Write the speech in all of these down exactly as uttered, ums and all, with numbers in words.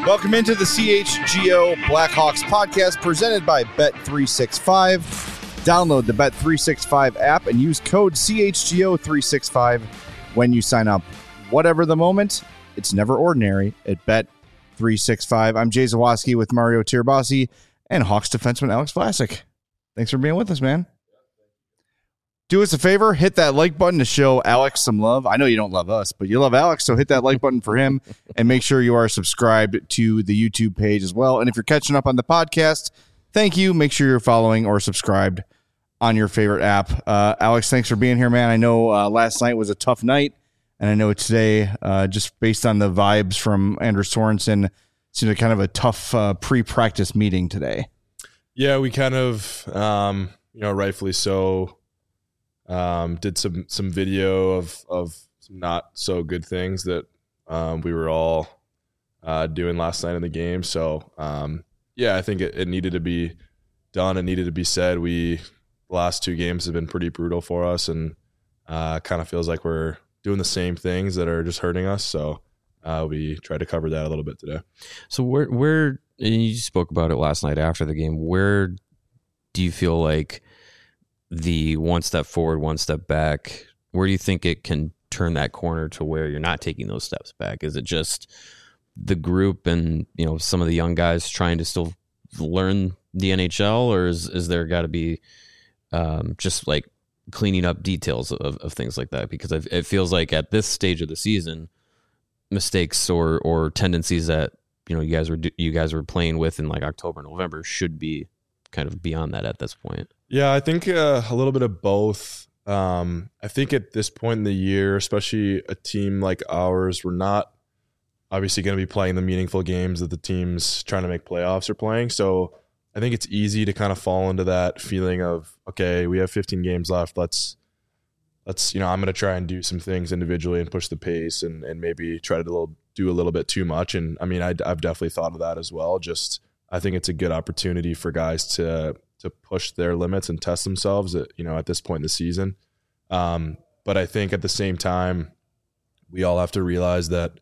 Welcome into the C H G O Blackhawks podcast presented by Bet three sixty-five. Download the Bet three sixty-five app and use code C H G O three sixty-five when you sign up. Whatever the moment, it's never ordinary at Bet three sixty-five. I'm Jay Zawaski with Mario Tirabassi and Hawks defenseman Alex Vlasic. Thanks for being with us, man. Do us a favor, hit that like button to show Alex some love. I know you don't love us, but you love Alex, so hit that like button for him, and make sure you are subscribed to the YouTube page as well. And if you're catching up on the podcast, thank you. Make sure you're following or subscribed on your favorite app. Uh, Alex, thanks for being here, man. I know uh, last night was a tough night, and I know today, uh, just based on the vibes from Anders Sorensen, seemed like kind of a tough uh, pre-practice meeting today. Yeah, we kind of, um, you know, rightfully so, Um, did some some video of of some not so good things that um, we were all uh, doing last night in the game. So um, yeah, I think it, it needed to be done. It needed to be said. We the last two games have been pretty brutal for us, and uh, kind of feels like we're doing the same things that are just hurting us. So uh, we tried to cover that a little bit today. So where where and you spoke about it last night after the game. Where do you feel like the one step forward, one step back, where do you think it can turn that corner to where you're not taking those steps back? Is it just the group and, you know, some of the young guys trying to still learn the N H L, or is, is there got to be um, just like cleaning up details of, of things like that? Because it feels like at this stage of the season, mistakes or, or tendencies that, you know, you guys were, you guys were playing with in like October, November should be kind of beyond that at this point. Yeah, I think uh, a little bit of both. Um, I think at this point in the year, especially a team like ours, we're not obviously going to be playing the meaningful games that the teams trying to make playoffs are playing. So I think it's easy to kind of fall into that feeling of, okay, we have fifteen games left. Let's, let's you know, I'm going to try and do some things individually and push the pace and and maybe try to do a little, do a little bit too much. And I mean, I, I've definitely thought of that as well. Just I think it's a good opportunity for guys to to push their limits and test themselves at, you know, at this point in the season. Um, but I think at the same time, we all have to realize that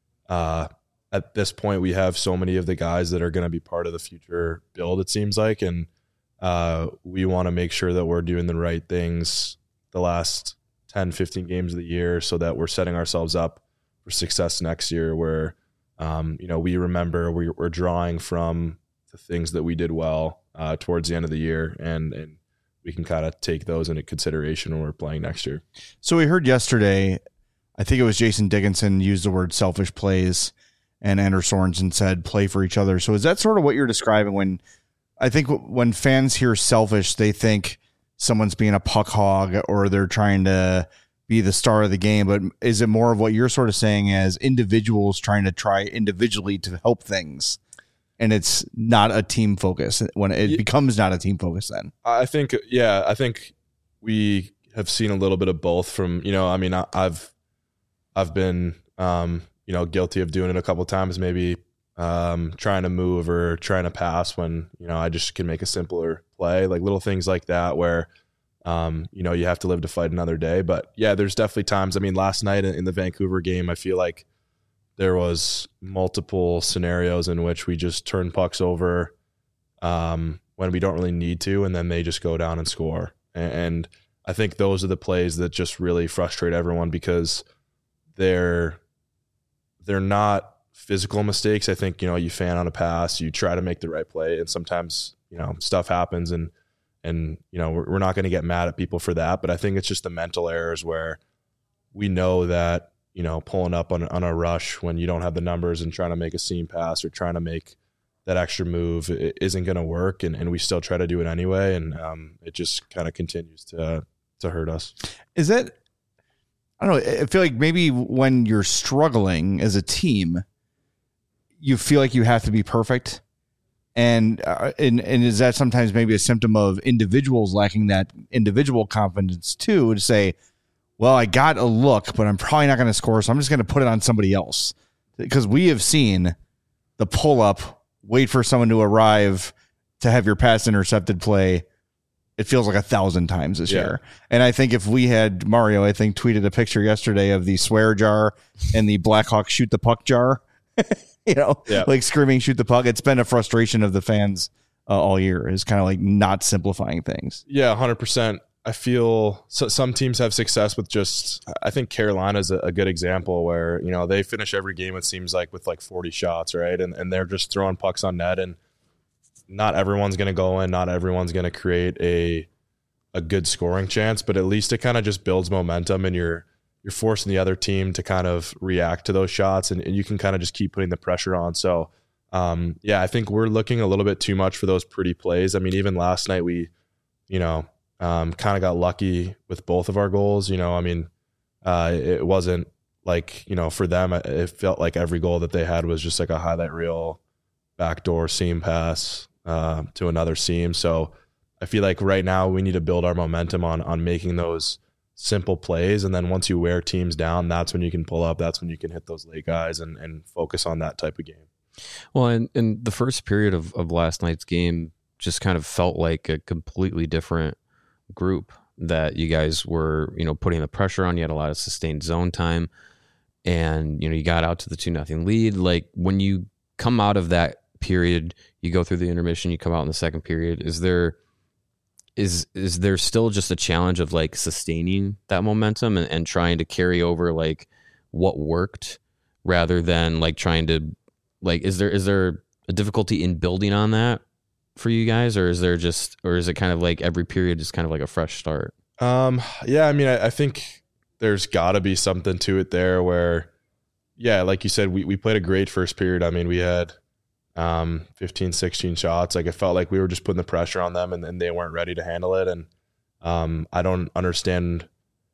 uh, at this point, we have so many of the guys that are going to be part of the future build, it seems like. And uh, we want to make sure that we're doing the right things the last ten, fifteen games of the year so that we're setting ourselves up for success next year where, um, you know, we remember we, we're drawing from the things that we did well uh, towards the end of the year, and and we can kind of take those into consideration when we're playing next year. So we heard yesterday, I think it was Jason Dickinson used the word selfish plays, and Anders Sorensen said play for each other. So is that sort of what you're describing when I think when fans hear selfish, they think someone's being a puck hog or they're trying to be the star of the game. But is it more of what you're sort of saying as individuals trying to try individually to help things? And it's not a team focus when it yeah. becomes not a team focus then. I think, yeah, I think we have seen a little bit of both from, you know, I mean, I, I've, I've been, um, you know, guilty of doing it a couple of times, maybe um, trying to move or trying to pass when, you know, I just can make a simpler play, like little things like that where, um, you know, you have to live to fight another day. But yeah, there's definitely times, I mean, last night in the Vancouver game, I feel like there was multiple scenarios in which we just turn pucks over um, when we don't really need to, and then they just go down and score. And I think those are the plays that just really frustrate everyone because they're they're not physical mistakes. I think, you know, you fan on a pass, you try to make the right play, and sometimes, you know, stuff happens, and and you know, we're, we're not going to get mad at people for that. But I think it's just the mental errors where we know that, you know, pulling up on, on a rush when you don't have the numbers and trying to make a seam pass or trying to make that extra move it isn't going to work. And, and we still try to do it anyway. And um, it just kind of continues to, to hurt us. Is that, I don't know, I feel like maybe when you're struggling as a team, you feel like you have to be perfect. And, uh, and, and is that sometimes maybe a symptom of individuals lacking that individual confidence too, to say, well, I got a look, but I'm probably not going to score, so I'm just going to put it on somebody else. Because we have seen the pull-up, wait for someone to arrive to have your pass intercepted play. It feels like a thousand times this yeah. year. And I think if we had Mario, I think, tweeted a picture yesterday of the swear jar and the Blackhawks shoot the puck jar. you know, Yeah. like screaming, shoot the puck. It's been a frustration of the fans uh, all year, is kind of like not simplifying things. Yeah, one hundred percent. I feel so, some teams have success with just, I think Carolina's a, a good example where, you know, they finish every game, it seems like, with like forty shots, right? And and they're just throwing pucks on net, and not everyone's going to go in, not everyone's going to create a a good scoring chance, but at least it kind of just builds momentum, and you're you're forcing the other team to kind of react to those shots, and, and you can kind of just keep putting the pressure on. So, um, yeah, I think we're looking a little bit too much for those pretty plays. I mean, even last night we, you know, Um, kind of got lucky with both of our goals. You know, I mean, uh, it wasn't like, you know, for them, it felt like every goal that they had was just like a highlight reel, backdoor seam pass uh, to another seam. So I feel like right now we need to build our momentum on on making those simple plays. And then once you wear teams down, that's when you can pull up. That's when you can hit those late guys and, and focus on that type of game. Well, and, and the first period of, of last night's game just kind of felt like a completely different group that you guys were, you know, putting the pressure on. You had a lot of sustained zone time, and, you know, you got out to the two nothing lead. Like, when you come out of that period, you go through the intermission, you come out in the second period. Is there, is, is there still just a challenge of like sustaining that momentum and, and trying to carry over like what worked rather than like trying to like, is there, is there a difficulty in building on that for you guys, or is there just, or is it kind of like every period is kind of like a fresh start? Um, yeah, I mean, I, I think there's got to be something to it there where, yeah, like you said, we, we played a great first period. I mean, we had um, fifteen, sixteen shots. Like, it felt like we were just putting the pressure on them, and, and they weren't ready to handle it. And um, I don't understand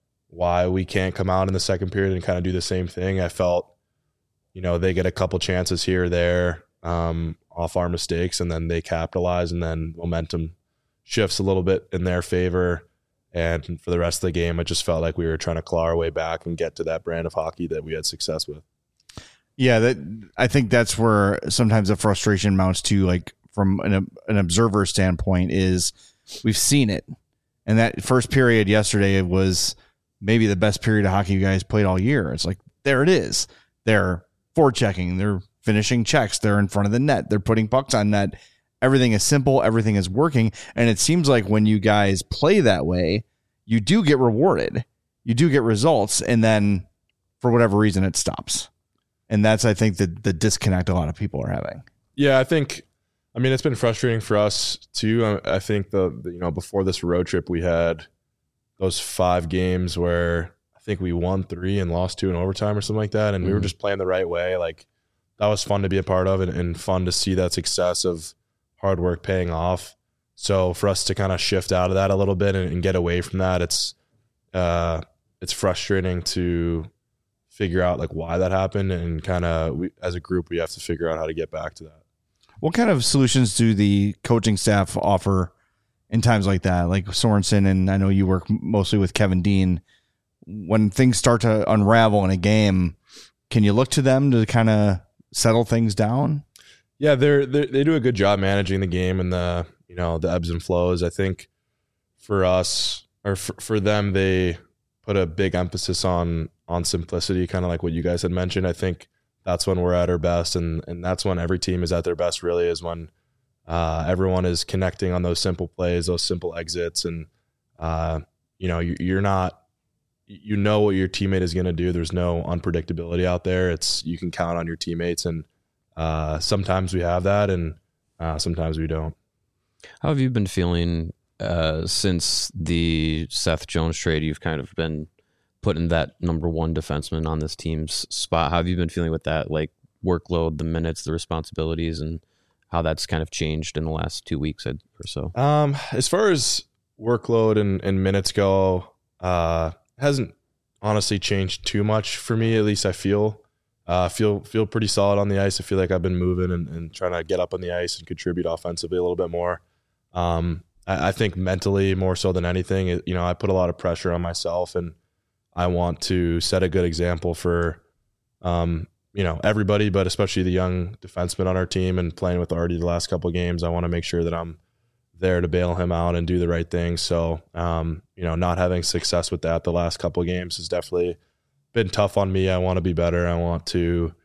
why we can't come out in the second period and kind of do the same thing. I felt, you know, they get a couple chances here or there, um, off our mistakes, and then they capitalize, and then momentum shifts a little bit in their favor. And for the rest of the game, it just felt like we were trying to claw our way back and get to that brand of hockey that we had success with. Yeah, that I think that's where sometimes the frustration mounts to, like, from an, an observer standpoint, is we've seen it. And that first period yesterday was maybe the best period of hockey you guys played all year. It's like, there it is. They're forechecking. They're finishing checks. They're in front of the net. They're putting pucks on net. Everything is simple. Everything is working. And it seems like when you guys play that way, you do get rewarded. You do get results. And then for whatever reason, it stops. And that's, I think, the, the disconnect a lot of people are having. Yeah, I think, I mean, it's been frustrating for us too. I, I think the, the, you know, before this road trip, we had those five games where I think we won three and lost two in overtime or something like that. And mm-hmm. we were just playing the right way. Like, that was fun to be a part of, and, and fun to see that success of hard work paying off. So for us to kind of shift out of that a little bit and, and get away from that, it's uh, it's frustrating to figure out like why that happened, and kind of we, as a group, we have to figure out how to get back to that. What kind of solutions do the coaching staff offer in times like that? Like Sorensen, and I know you work mostly with Kevin Dean. When things start to unravel in a game, can you look to them to kind of settle things down? Yeah, they're, they're they do a good job managing the game and the, you know, the ebbs and flows. I think for us, or for, for them, they put a big emphasis on on simplicity, kind of like what you guys had mentioned. I think that's when we're at our best, and and that's when every team is at their best, really, is when uh, everyone is connecting on those simple plays, those simple exits, and uh, you know, you, you're not, you know what your teammate is going to do. There's no unpredictability out there. It's, you can count on your teammates, and uh, sometimes we have that, and uh, sometimes we don't. How have you been feeling uh, since the Seth Jones trade? You've kind of been putting that number one defenseman on this team's spot. How have you been feeling with that, like, workload, the minutes, the responsibilities, and how that's kind of changed in the last two weeks or so? Um, as far as workload and, and minutes go, uh, hasn't honestly changed too much for me. At least I feel, uh, feel, feel pretty solid on the ice. I feel like I've been moving and, and trying to get up on the ice and contribute offensively a little bit more. Um, I, I think mentally more so than anything, it, you know, I put a lot of pressure on myself, and I want to set a good example for, um, you know, everybody, but especially the young defenseman on our team, and playing with Artie the last couple of games. I want to make sure that I'm there to bail him out and do the right thing. So, um, you know, not having success with that the last couple of games has definitely been tough on me. I want to be better. I want to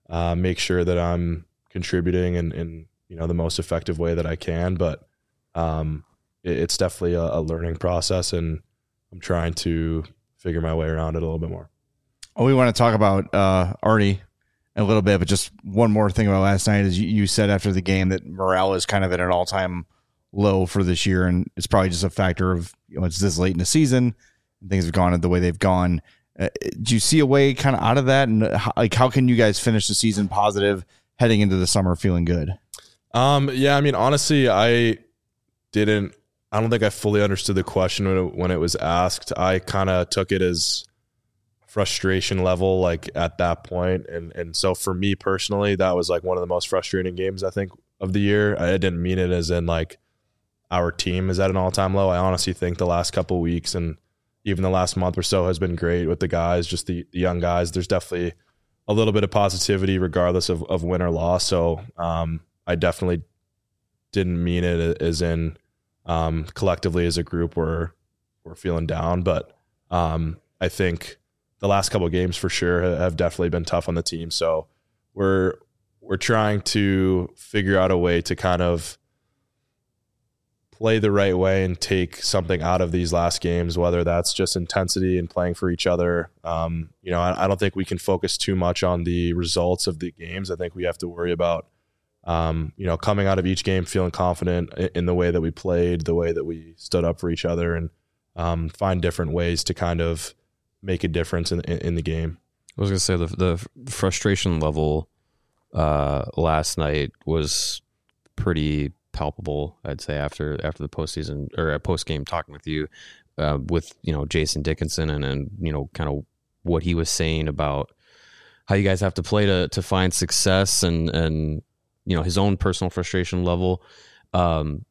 uh, make sure that I'm contributing in, in you know the most effective way that I can. But um, it, it's definitely a, a learning process, and I'm trying to figure my way around it a little bit more. Oh, we want to talk about uh, Artie a little bit, but just one more thing about last night is you, you said after the game that morale is kind of at an all-time low for this year, and it's probably just a factor of, you know, it's this late in the season and things have gone the way they've gone. Uh, do you see a way kind of out of that, and how, like how can you guys finish the season positive heading into the summer feeling good? Um, yeah, I mean, honestly, I didn't. I don't think I fully understood the question when it, when it was asked. I kind of took it as frustration level, like at that point, and and so for me personally, that was like one of the most frustrating games I think of the year. I didn't mean it as in like our team is at an all-time low. I honestly think the last couple of weeks and even the last month or so has been great with the guys, just the, the young guys. There's definitely a little bit of positivity regardless of, of win or loss. So um, I definitely didn't mean it as in um, collectively as a group we're, we're feeling down. But um, I think the last couple of games for sure have definitely been tough on the team. So we're we're trying to figure out a way to kind of play the right way and take something out of these last games, whether that's just intensity and playing for each other. Um, you know, I, I don't think we can focus too much on the results of the games. I think we have to worry about, um, you know, coming out of each game feeling confident in, in the way that we played, the way that we stood up for each other, and um, find different ways to kind of make a difference in, in, in the game. I was going to say the the frustration level uh, last night was pretty palpable, I'd say, after after the postseason or post game talking with you uh, with, you know, Jason Dickinson and, and, you know, kind of what he was saying about how you guys have to play to to find success and, and you know, his own personal frustration level. Um,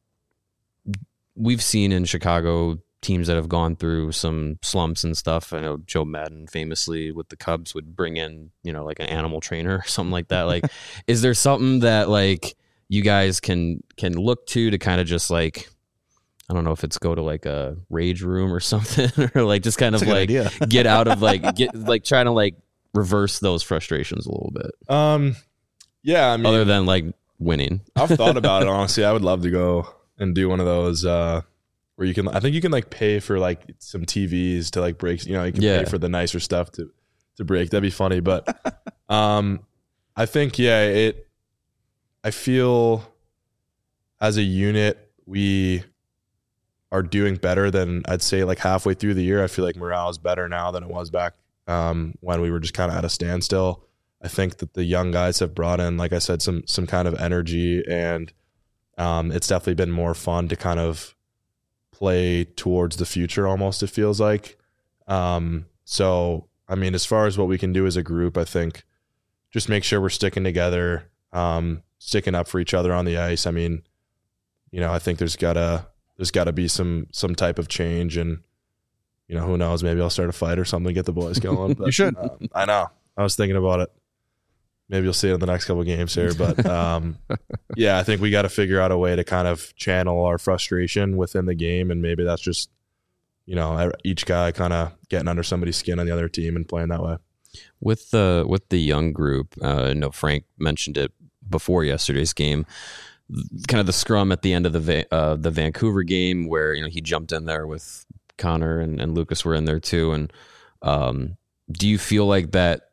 we've seen in Chicago teams that have gone through some slumps and stuff. I know Joe Madden famously with the Cubs would bring in, you know, like an animal trainer or something like that. Like, is there something that like you guys can can look to to kind of just like, I don't know if it's go to like a rage room or something, or like just kind of like get out of like get like trying to like reverse those frustrations a little bit. Um, yeah, I mean, other than like winning, I've thought about it honestly. I would love to go and do one of those. Uh, Where you can, I think you can like pay for like some T Vs to like break, you know, you can yeah. pay for the nicer stuff to, to break. That'd be funny. But um, I think, yeah, it, I feel as a unit, we are doing better than I'd say like halfway through the year. I feel like morale is better now than it was back um, when we were just kind of at a standstill. I think that the young guys have brought in, like I said, some, some kind of energy, and um, it's definitely been more fun to kind of play towards the future almost, it feels like. Um, so, I mean, as far as what we can do as a group, I think just make sure we're sticking together, um, sticking up for each other on the ice. I mean, you know, I think there's gotta, there's gotta be some, some type of change, and, you know, who knows, maybe I'll start a fight or something to get the boys going. But, you should. Um, I know. I was thinking about it. Maybe you'll see it in the next couple of games here. But um, yeah, I think we got to figure out a way to kind of channel our frustration within the game. And maybe that's just, you know, each guy kind of getting under somebody's skin on the other team and playing that way. With the with the young group, uh, I know Frank mentioned it before yesterday's game, kind of the scrum at the end of the Va- uh, the Vancouver game where, you know, he jumped in there with Connor and, and Lucas were in there too. And um, do you feel like that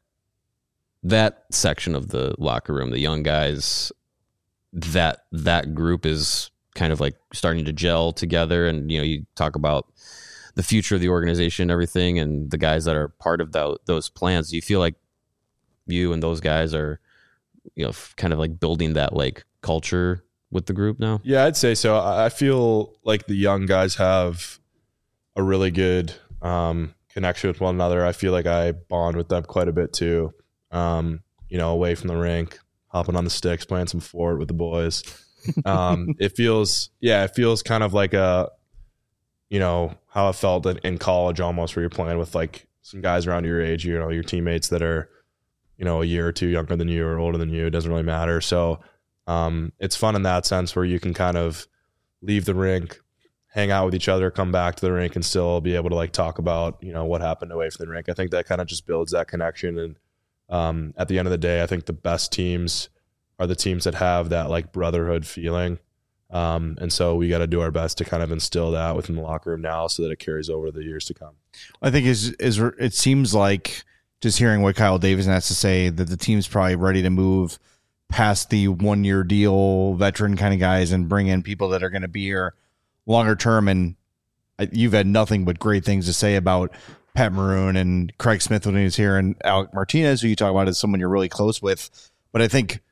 that section of the locker room, the young guys, that that group is kind of like starting to gel together? And, you know, you talk about the future of the organization and everything, and the guys that are part of the, those plans. Do you feel like you and those guys are, you know, kind of like building that like culture with the group now? Yeah, I'd say so. I feel like the young guys have a really good um, connection with one another. I feel like I bond with them quite a bit too. Um, you know, away from the rink, hopping on the sticks, playing some fort with the boys. Um, it feels, yeah, it feels kind of like a, you know, how it felt in, in college almost, where you're playing with like some guys around your age, you know, your teammates that are, you know, a year or two younger than you or older than you. It doesn't really matter. So um, it's fun in that sense where you can kind of leave the rink, hang out with each other, come back to the rink, and still be able to like talk about, you know, what happened away from the rink. I think that kind of just builds that connection, and um, at the end of the day, I think the best teams are the teams that have that like brotherhood feeling. Um, and so we got to do our best to kind of instill that within the locker room now so that it carries over the years to come. I think is is it seems like just hearing what Kyle Davidson has to say that the team's probably ready to move past the one year deal veteran kind of guys and bring in people that are going to be here longer term. And you've had nothing but great things to say about Pat Maroon and Craig Smith when he was here, and Alec Martinez, who you talk about as someone you're really close with. But I think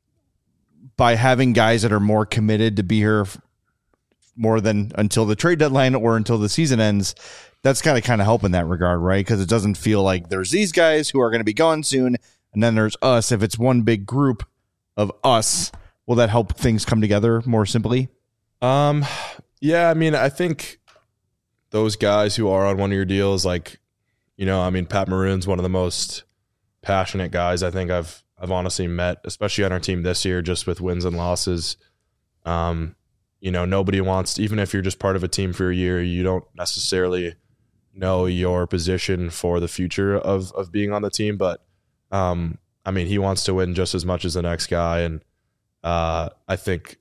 by having guys that are more committed to be here more than until the trade deadline or until the season ends, that's got to kind of help in that regard, right? Because it doesn't feel like there's these guys who are going to be gone soon, and then there's us. If it's one big group of us, will that help things come together more simply? Um, yeah, I mean, I think those guys who are on one-year deals, like, you know, I mean, Pat Maroon's one of the most passionate guys I think I've I've honestly met, especially on our team this year, just with wins and losses. Um, you know, nobody wants to, even if you're just part of a team for a year, you don't necessarily know your position for the future of of being on the team. But um, I mean, he wants to win just as much as the next guy, and uh, I think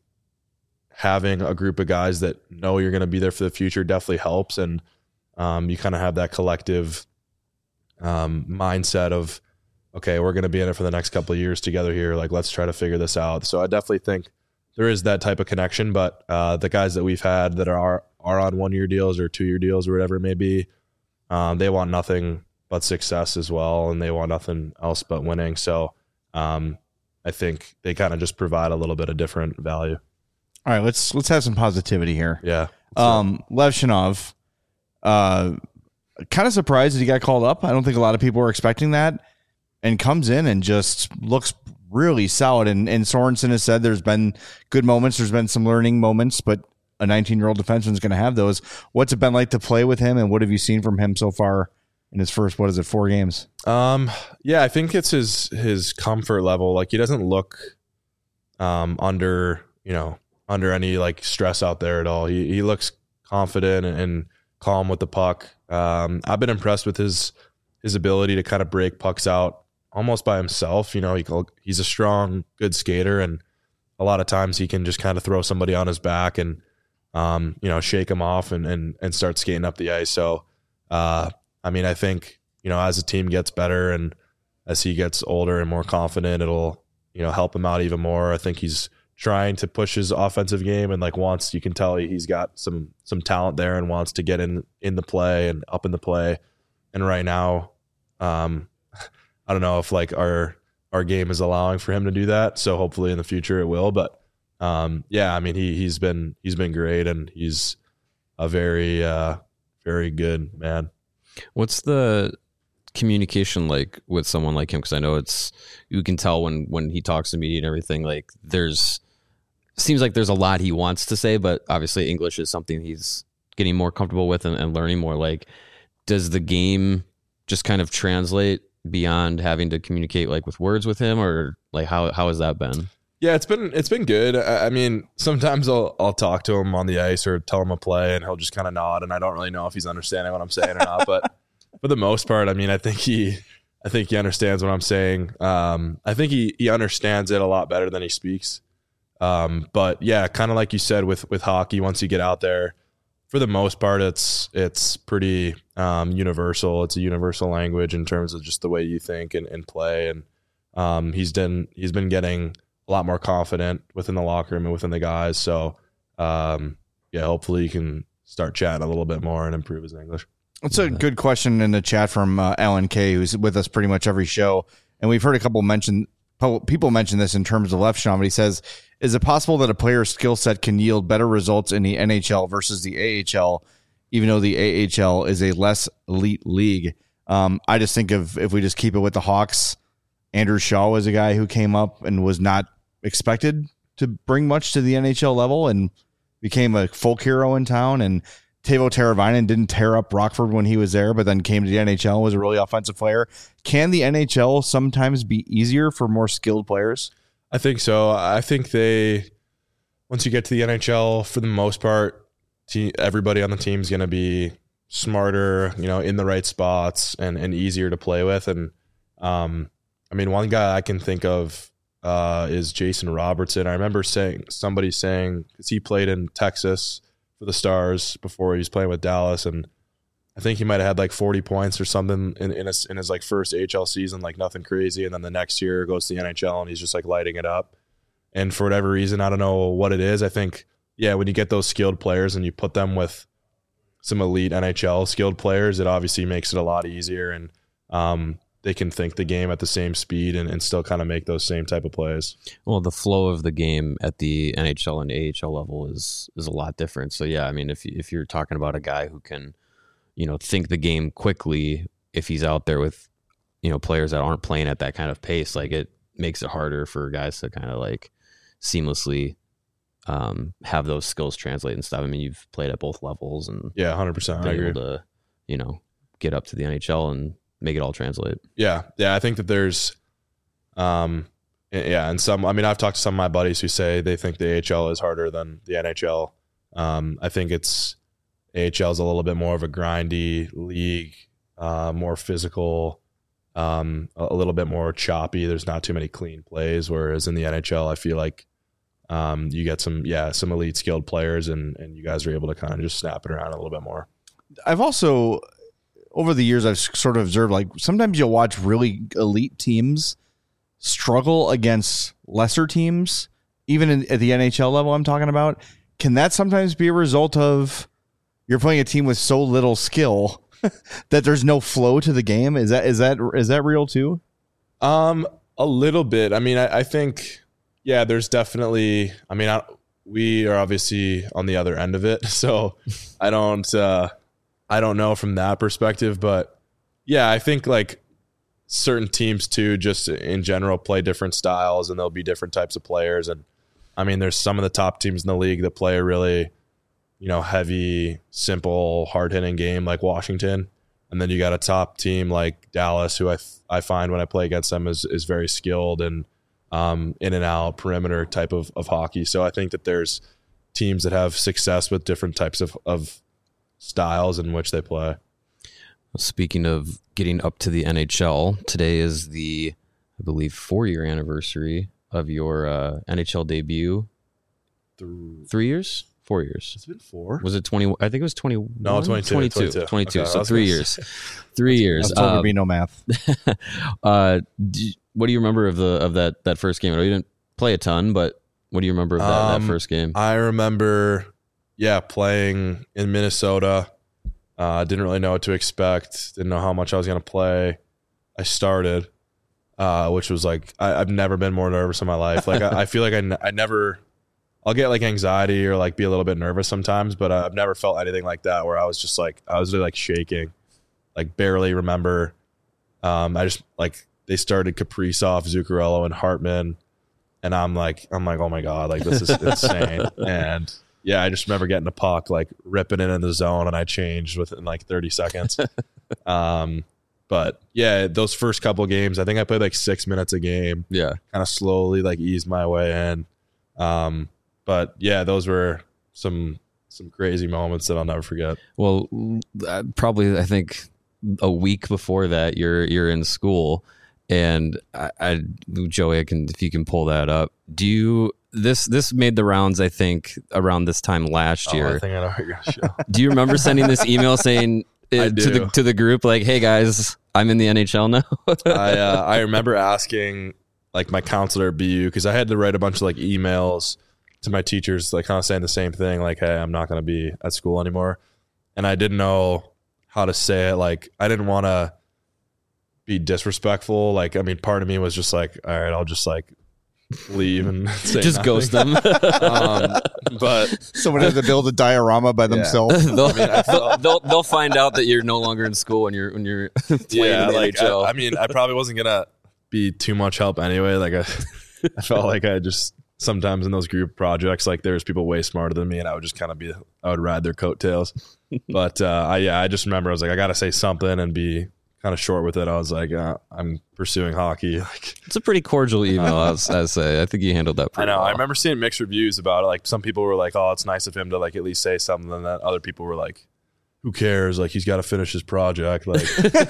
having a group of guys that know you're going to be there for the future definitely helps. And um, you kind of have that collective um, mindset of, okay, we're going to be in it for the next couple of years together here. Like, let's try to figure this out. So I definitely think there is that type of connection, but uh, the guys that we've had that are, are on one year deals or two year deals or whatever it may be, um, they want nothing but success as well. And they want nothing else but winning. So um, I think they kind of just provide a little bit of different value. All right, let's let's have some positivity here. Yeah. Um, Lev Shinov, uh, kind of surprised that he got called up. I don't think a lot of people were expecting that, and comes in and just looks really solid. And, and Sorensen has said there's been good moments, there's been some learning moments, but a nineteen-year-old defenseman is going to have those. What's it been like to play with him, and what have you seen from him so far in his first, what is it, four games? Um, yeah, I think it's his his comfort level. Like, he doesn't look um, under, you know, under any like stress out there at all. He he looks confident and, and calm with the puck. Um, I've been impressed with his his ability to kind of break pucks out almost by himself. You know, he he's a strong, good skater, and a lot of times he can just kind of throw somebody on his back and um, you know, shake him off and and and start skating up the ice. So uh, I mean, I think, you know, as the team gets better and as he gets older and more confident, it'll, you know, help him out even more. I think he's trying to push his offensive game and like wants, you can tell he's got some some talent there and wants to get in in the play and up in the play. And right now, um, I don't know if like our our game is allowing for him to do that. So hopefully in the future it will. But um, yeah, I mean he he's been he's been great, and he's a very uh, very good man. What's the communication like with someone like him? Because I know it's, you can tell when when he talks to media and everything, like there's seems like there's a lot he wants to say, but obviously English is something he's getting more comfortable with and, and learning more. Like, does the game just kind of translate beyond having to communicate like with words with him, or like how how has that been? Yeah, it's been it's been good. I, I mean, sometimes I'll I'll talk to him on the ice or tell him a play, and he'll just kind of nod, and I don't really know if he's understanding what I'm saying or not. But for the most part, I mean, I think he I think he understands what I'm saying. Um, I think he he understands it a lot better than he speaks. Um, but yeah, kind of like you said with with hockey, once you get out there, for the most part, it's it's pretty um, universal. It's a universal language in terms of just the way you think and, and play. And um, he's done he's been getting a lot more confident within the locker room and within the guys. So um, yeah, hopefully he can start chatting a little bit more and improve his English. That's a good question in the chat from uh, Alan K, who's with us pretty much every show. And we've heard a couple mention people mention this in terms of Lev Shinov, but he says, is it possible that a player's skill set can yield better results in the N H L versus the A H L, even though the A H L is a less elite league? Um, I just think of, if we just keep it with the Hawks, Andrew Shaw was a guy who came up and was not expected to bring much to the N H L level and became a folk hero in town. And Teuvo Teravainen didn't tear up Rockford when he was there, but then came to the N H L and was a really offensive player. Can the N H L sometimes be easier for more skilled players? I think so. I think they, once you get to the N H L, for the most part, te- everybody on the team is going to be smarter, you know, in the right spots and, and easier to play with. And um, I mean, one guy I can think of uh, is Jason Robertson. I remember saying somebody saying, because he played in Texas for the Stars before he was playing with Dallas, and I think he might have had like forty points or something in in his, in his like first A H L season, like nothing crazy, and then the next year goes to the N H L and he's just like lighting it up. And for whatever reason, I don't know what it is. I think, yeah, when you get those skilled players and you put them with some elite N H L skilled players, it obviously makes it a lot easier, and um, they can think the game at the same speed and, and still kind of make those same type of plays. Well, the flow of the game at the N H L and A H L level is is a lot different. So yeah, I mean, if if you're talking about a guy who can, you know, think the game quickly, if he's out there with, you know, players that aren't playing at that kind of pace, like it makes it harder for guys to kind of like seamlessly um, have those skills translate and stuff. I mean, you've played at both levels and yeah, one hundred percent. I been agree. able to, you know, get up to the N H L and make it all translate. Yeah, yeah. I think that there's, um, yeah, and some. I mean, I've talked to some of my buddies who say they think the A H L is harder than the N H L. Um, I think it's A H L is a little bit more of a grindy league, uh, more physical. Um, a, a little bit more choppy. There's not too many clean plays, whereas in the N H L, I feel like um, you get some, yeah, some elite skilled players, and and you guys are able to kind of just snap it around a little bit more. I've also, over the years, I've sort of observed, like, sometimes you'll watch really elite teams struggle against lesser teams, even in, at the N H L level I'm talking about. Can that sometimes be a result of you're playing a team with so little skill that there's no flow to the game? Is that is that is that real too? Um, a little bit. I mean, I, I think, yeah, there's definitely. I mean, I, we are obviously on the other end of it, so I don't, uh, I don't know from that perspective. But yeah, I think like certain teams too, just in general, play different styles, and there'll be different types of players. And I mean, there's some of the top teams in the league that play a really, you know, heavy, simple, hard-hitting game like Washington. And then you got a top team like Dallas, who I I find when I play against them is is very skilled and um, in and out perimeter type of, of hockey. So I think that there's teams that have success with different types of, of styles in which they play. Speaking of getting up to the N H L, today is the, I believe, four-year anniversary of your uh, N H L debut. Through, Three years? Four years. It's been four. Was it twenty? I think it was twenty. No, twenty-two. twenty-two. twenty-two. twenty-two. Okay, So three years. Three years. I was told Um, there'd be no math. uh, do, what do you remember of the of that that first game? I know you didn't play a ton, but what do you remember of that, Um, that first game? I remember, yeah, playing in Minnesota. I uh, didn't really know what to expect. Didn't know how much I was going to play. I started, uh, which was like, I, I've never been more nervous in my life. Like, I, I feel like I, n- I never, I'll get like anxiety or like be a little bit nervous sometimes, but I've never felt anything like that where I was just like, I was really like shaking, like barely remember. Um, I just like, they started Kaprizov, Zuccarello, and Hartman. And I'm like, I'm like, oh my God, like this is insane. And yeah, I just remember getting the puck, like ripping it in the zone, and I changed within like thirty seconds. um, but yeah, those first couple games, I think I played like six minutes a game. Yeah. Kind of slowly like eased my way in. Um, but yeah, those were some some crazy moments that I'll never forget. Well, uh, probably I think a week before that, you're you're in school, and I, I Joey, I can if you can pull that up. Do you? This this made the rounds, I think, around this time last year. Oh, I think I know what you're gonna show. Do you remember sending this email saying uh, I to do. the to the group like, "Hey guys, I'm in the N H L now"? I uh, I remember asking like my counselor at B U, because I had to write a bunch of like emails to my teachers, like kind of saying the same thing, like, "Hey, I'm not going to be at school anymore," and I didn't know how to say it. Like, I didn't want to be disrespectful. Like, I mean, part of me was just like, all right, I'll just like leave and say Just nothing. ghost them. um, but Someone had to build a diorama by themselves. they'll, I mean, I they'll, they'll they'll find out that you're no longer in school when you're when you're playing yeah, in the like N H L. I, I mean, I probably wasn't gonna be too much help anyway. Like, I, I felt like I just sometimes in those group projects, like there's people way smarter than me, and I would just kind of be, I would ride their coattails. But uh, I yeah, I just remember I was like, I gotta say something and be kind of short with it. I was like, uh, I'm pursuing hockey. Like, It's a pretty cordial email, I say. I think you handled that I pretty know. well. I remember seeing mixed reviews about it. Like, some people were like, "Oh, it's nice of him to like at least say something," and then other people were like, who cares? Like, he's got to finish his project. Like,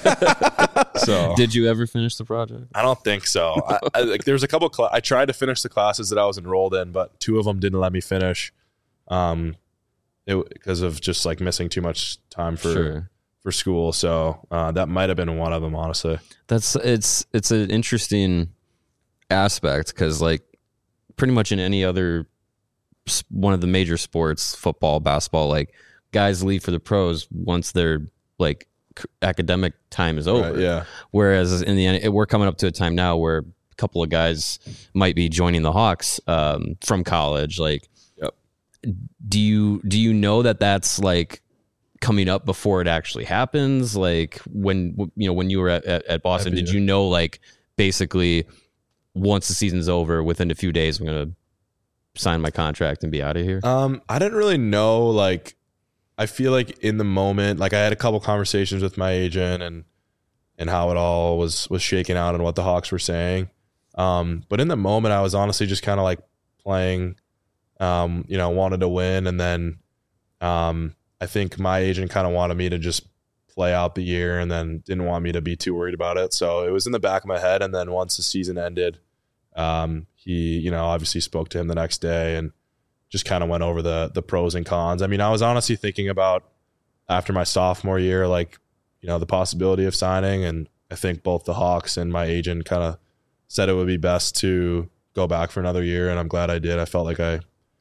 so Did you ever finish the project? I don't think so. I, I, like, there was a couple. Cl- I tried to finish the classes that I was enrolled in, but two of them didn't let me finish, um, it, because of just like missing too much time for Sure. for school. So uh, that might have been one of them, honestly. That's it's it's an interesting aspect because like pretty much in any other s- one of the major sports, football, basketball, like guys leave for the pros once their like c- academic time is over. Right, yeah. Whereas in the end, we're coming up to a time now where a couple of guys might be joining the Hawks um, from college. Like, Yep. do you do you know that that's like coming up before it actually happens? Like when you know when you were at, at, at Boston, That'd did be- you know like basically once the season's over, within a few days, I'm gonna sign my contract and be out of here? Um, I didn't really know. Like, I feel like in the moment, like I had a couple conversations with my agent and and how it all was was shaking out and what the Hawks were saying. Um, but in the moment, I was honestly just kind of like playing. Um, you know, wanted to win, and then um, I think my agent kind of wanted me to just play out the year, and then didn't want me to be too worried about it. So it was in the back of my head. And then once the season ended, um, he, you know, obviously spoke to him the next day and just kind of went over the the pros and cons. I mean, I was honestly thinking about after my sophomore year, like, you know, the possibility of signing, and I think both the Hawks and my agent kind of said it would be best to go back for another year, and I'm glad I did. I felt like I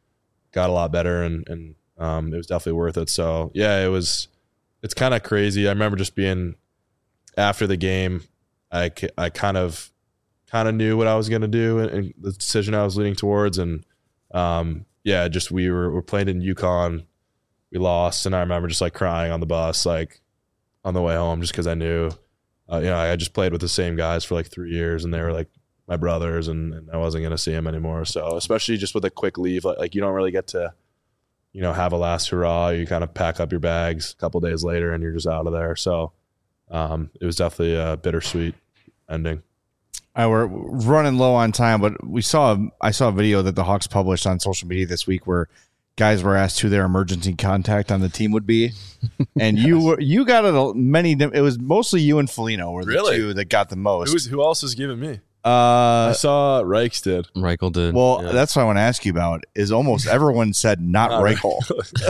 got a lot better, and and um, it was definitely worth it. So yeah, it was. It's kind of crazy. I remember just being after the game. I I kind of kind of knew what I was going to do and, and the decision I was leaning towards, and um, yeah, just we were we're playing in UConn. We lost, and I remember just like crying on the bus, like on the way home, just because I knew, uh, you know, I just played with the same guys for like three years, and they were like my brothers, and, and I wasn't going to see them anymore. So especially just with a quick leave, like, like you don't really get to, you know, have a last hurrah. You kind of pack up your bags a couple days later, and you're just out of there. So um, it was definitely a bittersweet ending. I we're running low on time, but we saw I saw a video that the Hawks published on social media this week where guys were asked who their emergency contact on the team would be, and yes. you were you got it many. It was mostly you and Foligno were the really? two that got the most. Who, was, who else was giving me? Uh, I saw Reichs did. Reichel did. Well, yeah. that's what I want to ask you about. Is almost everyone said not, not Reichel.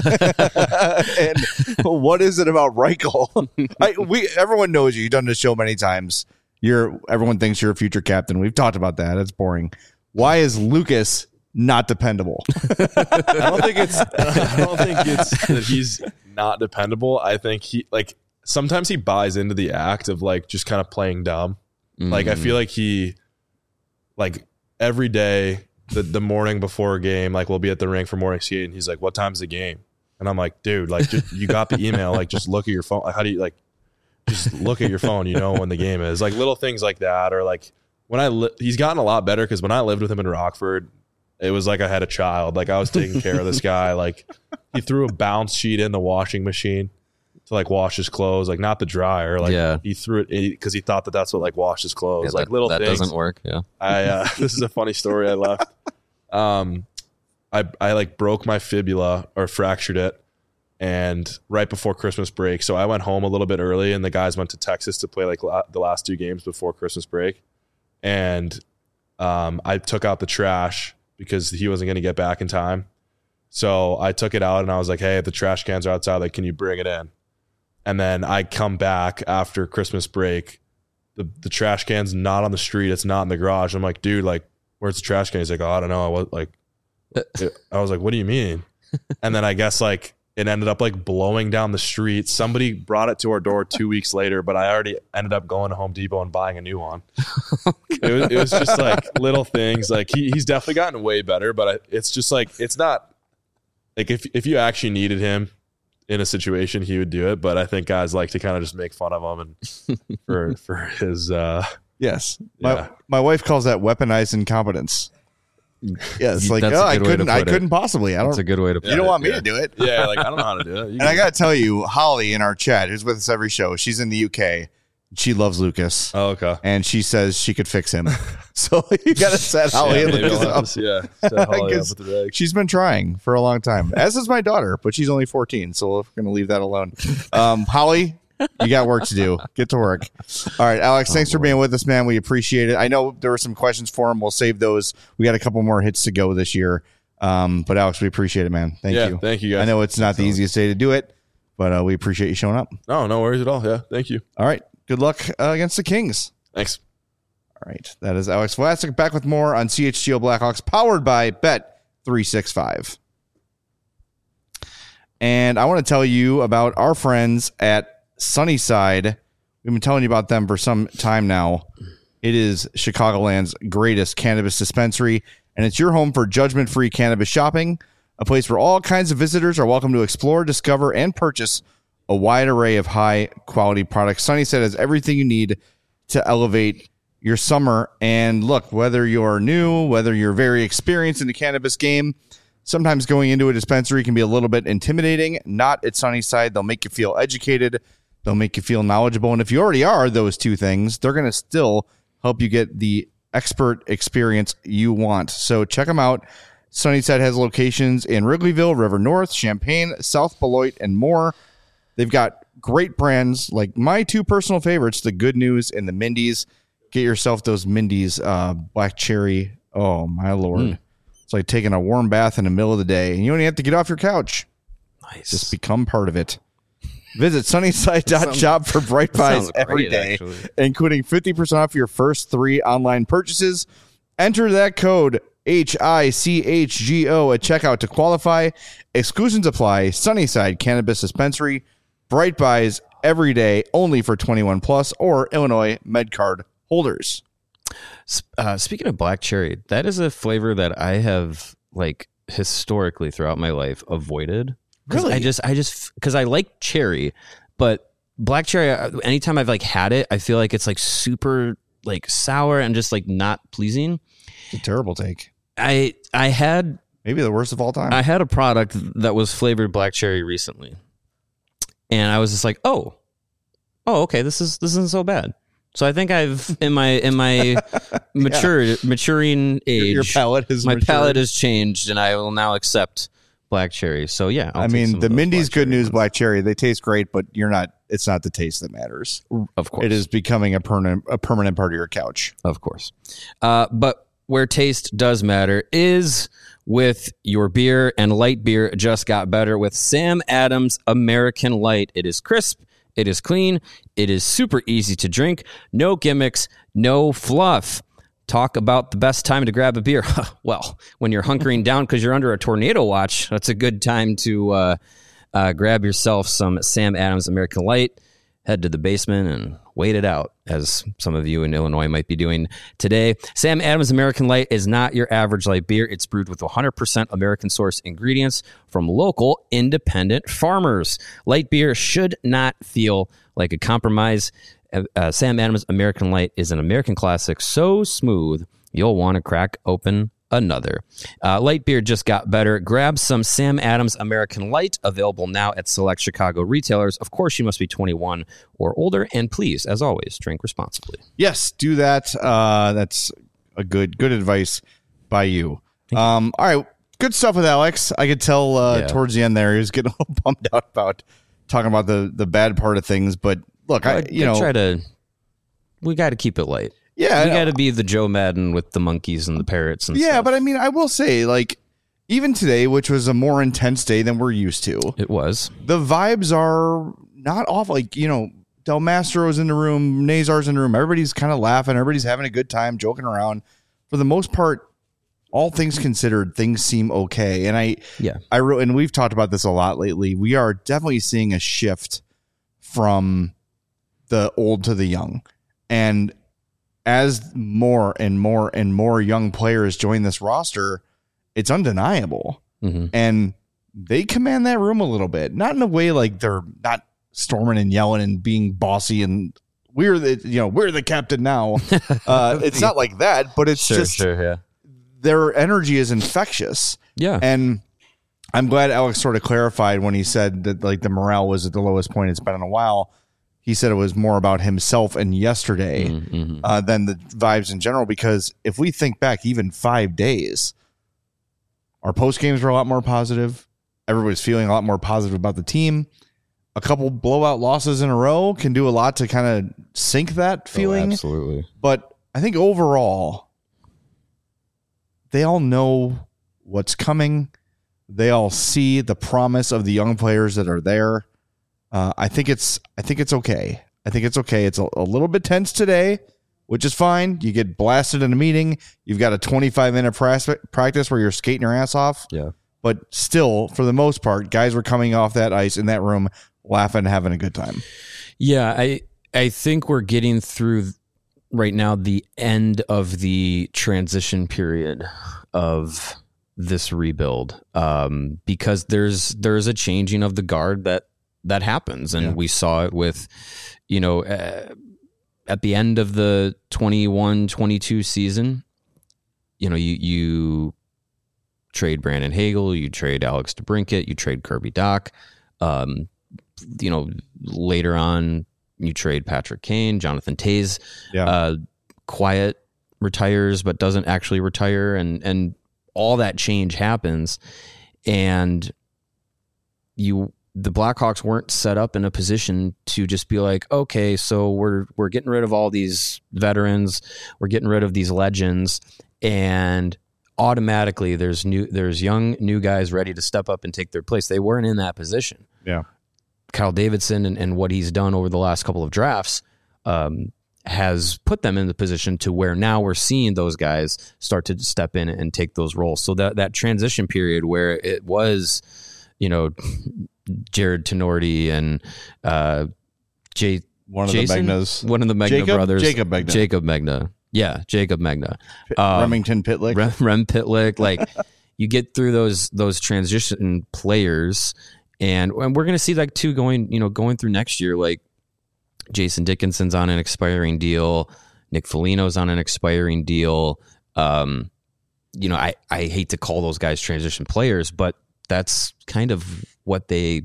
And what is it about Reichel? I, we everyone knows you. You've done this show many times. You're everyone thinks you're a future captain. We've talked about that. It's boring. Why is Lucas not dependable? I don't think it's. I don't think it's that he's not dependable. I think he like sometimes he buys into the act of like just kind of playing dumb. Mm. Like I feel like he, like every day the the morning before a game, like we'll be at the rink for morning skate, and he's like, "What time's the game?" And I'm like, "Dude, like just, you got the email. Like just look at your phone. Like, how do you like?" Just look at your phone, you know when the game is. Like little things like that, or like when I li- he's gotten a lot better because when I lived with him in Rockford, it was like I had a child. Like I was taking care of this guy. Like he threw a bounce sheet in the washing machine to like wash his clothes, like not the dryer. Like yeah. he threw it because he thought that that's what like washed his clothes. Yeah, like that, little that things. doesn't work. Yeah. I uh, this is a funny story. I left. Um, I I like broke my fibula or fractured it. And right before Christmas break, so I went home a little bit early, and the guys went to Texas to play like la- the last two games before Christmas break. And um, I took out the trash because he wasn't going to get back in time. So I took it out, and I was like, "Hey, the trash cans are outside. Like, can you bring it in?" And then I come back after Christmas break. The the trash can's not on the street. It's not in the garage. I'm like, "Dude, like, where's the trash can?" He's like, "Oh, I don't know." I was like, I was like, "What do you mean?" And then I guess like. It ended up like blowing down the street. Somebody brought it to our door two weeks later, but I already ended up going to Home Depot and buying a new one. it, was, it was just like little things. Like he, he's definitely gotten way better, but I, it's just like, it's not like if, if you actually needed him in a situation, he would do it. But I think guys like to kind of just make fun of him and for, for his, uh, yes. Yeah. My, my wife calls that weaponized incompetence. Yeah, it's like, That's oh, a I good way to couldn't, I put it. couldn't possibly. I don't. That's a good way to put You don't it. want me yeah. to do it. Yeah, like I don't know how to do it. You And I can- got to tell you, Holly in our chat, who's with us every show, she's in the U K. She loves Lucas, oh, okay. and she says she could fix him. So So you got to set Holly yeah, and maybe Lucas I'll have up. to- yeah, set Holly up 'Cause with the rag. She's been trying for a long time, as is my daughter, but she's only fourteen, so we're going to leave that alone. Um, Holly, you got work to do. Get to work. All right, Alex, thanks for being with us, man. We appreciate it. I know there were some questions for him. We'll save those. We got a couple more hits to go this year. Um, but Alex, we appreciate it, man. Thank Yeah, you. thank you, guys. I know it's not the easiest day to do it, but uh, we appreciate you showing up. No, no worries at all. Yeah, thank you. All right, good luck uh, against the Kings. Thanks. All right, that is Alex Vlasic back with more on C H G O Blackhawks, powered by Bet three sixty-five. And I want to tell you about our friends at Sunnyside. We've been telling you about them for some time now. It is Chicagoland's greatest cannabis dispensary, and it's your home for judgment-free cannabis shopping, a place where all kinds of visitors are welcome to explore, discover, and purchase a wide array of high-quality products. Sunnyside has everything you need to elevate your summer. And look, whether you're new, whether you're very experienced in the cannabis game, sometimes going into a dispensary can be a little bit intimidating. Not at Sunnyside. They'll make you feel educated. They'll make you feel knowledgeable. And if you already are those two things, they're going to still help you get the expert experience you want. So check them out. Sunnyside has locations in Wrigleyville, River North, Champaign, South Beloit, and more. They've got great brands like my two personal favorites, the Good News and the Mindy's. Get yourself those Mindy's uh, Black Cherry. Oh, my Lord. Mm. It's like taking a warm bath in the middle of the day, and you don't even have to get off your couch. Nice. Just become part of it. Visit sunnyside dot shop for Bright Buys every great, day, actually. including fifty percent off your first three online purchases. Enter that code H I C H G O at checkout to qualify. Exclusions apply. Sunnyside Cannabis Dispensary. Bright Buys every day, only for twenty-one plus or Illinois MedCard holders. Uh, speaking of black cherry, that is a flavor that I have like historically throughout my life avoided. Really? I just, I just, because I like cherry, but black cherry, anytime I've like had it, I feel like it's like super like sour and just like not pleasing. It's a terrible take. I, I had, Maybe the worst of all time. I had a product that was flavored black cherry recently, and I was just like, oh, oh, okay, this is this isn't so bad. So I think I've in my in my mature yeah. maturing age, your, your palate is my matured. palate has changed, and I will now accept black cherry. So yeah, I'll I take mean, some the of those Mindy's black Good cherry News ones. Black Cherry, they taste great, but you're not. It's not the taste that matters. Of course, It is becoming a permanent a permanent part of your couch. of course. Uh, but where taste does matter is with your beer, and light beer just got better with Sam Adams American Light. It is crisp. It is clean. It is super easy to drink. No gimmicks, no fluff. Talk about the best time to grab a beer. Well, when you're hunkering down because you're under a tornado watch, that's a good time to uh, uh, grab yourself some Sam Adams American Light. Head to the basement and wait it out, as some of you in Illinois might be doing today. Sam Adams American Light is not your average light beer. It's brewed with one hundred percent American source ingredients from local independent farmers. Light beer should not feel like a compromise. Uh, uh, Sam Adams American Light is an American classic so smooth you'll want to crack open another. Uh, light beer just got better. Grab some Sam Adams American Light, available now at select Chicago retailers. Of course, you must be twenty-one or older, and please, as always, drink responsibly. Yes, do that. Uh, that's a good good advice by you. Um, all right, good stuff with Alex. I could tell uh, Yeah. towards the end there he was getting a little bummed out about talking about the the bad part of things. But look, I you know try to. We got to keep it light. yeah, We got to be the Joe Madden with the monkeys and the parrots and yeah. stuff. But I mean, I will say, like, even today, which was a more intense day than we're used to, It was. the vibes are not off. Like, you know, Del Mastro's in the room, Nazar's in the room. Everybody's kind of laughing. Everybody's having a good time, joking around. For the most part, all things considered, things seem okay. And I, Yeah. I wrote, and we've talked about this a lot lately. We are definitely seeing a shift from the old to the young. And as more and more and more young players join this roster, it's undeniable. Mm-hmm. And they command that room a little bit, not in a way like they're not storming and yelling and being bossy and we're the, you know, we're the captain now. Uh, it's not like that, but it's Sure, just sure, yeah. their energy is infectious. Yeah. And I'm glad Alex sort of clarified when he said that like the morale was at the lowest point it's been in a while. he said it was more about himself and yesterday Mm-hmm. uh, than the vibes in general. Because if we think back even five days, our post games were a lot more positive. Everybody's feeling a lot more positive about the team. A couple blowout losses in a row can do a lot to kind of sink that feeling. Oh, absolutely. But I think overall, they all know what's coming. They all see the promise of the young players that are there. Uh, I think it's I think it's okay. I think it's okay. It's a, a little bit tense today, which is fine. You get blasted in a meeting. You've got a twenty-five minute practice where you're skating your ass off. Yeah. But still, for the most part, guys were coming off that ice in that room laughing, having a good time. Yeah, I I think we're getting through right now the end of the transition period of this rebuild, um, because there's there's a changing of the guard that that happens, and yeah. we saw it with, you know, uh, at the end of the twenty-one twenty-two season. You know, you you trade Brandon Hagel, you trade Alex DeBrincat, you trade Kirby Dach. Um, you know, later on, you trade Patrick Kane, Jonathan Toews. Yeah. Uh, quiet retires, but doesn't actually retire, and and all that change happens, and you the Blackhawks weren't set up in a position to just be like, okay, so we're we're getting rid of all these veterans, we're getting rid of these legends, and automatically there's new there's young new guys ready to step up and take their place. They weren't in that position. Yeah. Kyle Davidson and, and what he's done over the last couple of drafts um, has put them in the position to where now we're seeing those guys start to step in and take those roles. So that, that transition period where it was, you know, Jared Tenorti and uh, Jay, one of Jason? the Megnas. One of the Megna Jacob? brothers. Jacob Megna. Jacob Megna. Yeah, Jacob Megna. Um, Remington Pitlick. Rem, Rem Pitlick. Like, you get through those those transition players, and, and we're going to see like two going, you know, going through next year. Like Jason Dickinson's on an expiring deal, Nick Foligno's on an expiring deal. Um, you know, I I hate to call those guys transition players, but that's kind of what they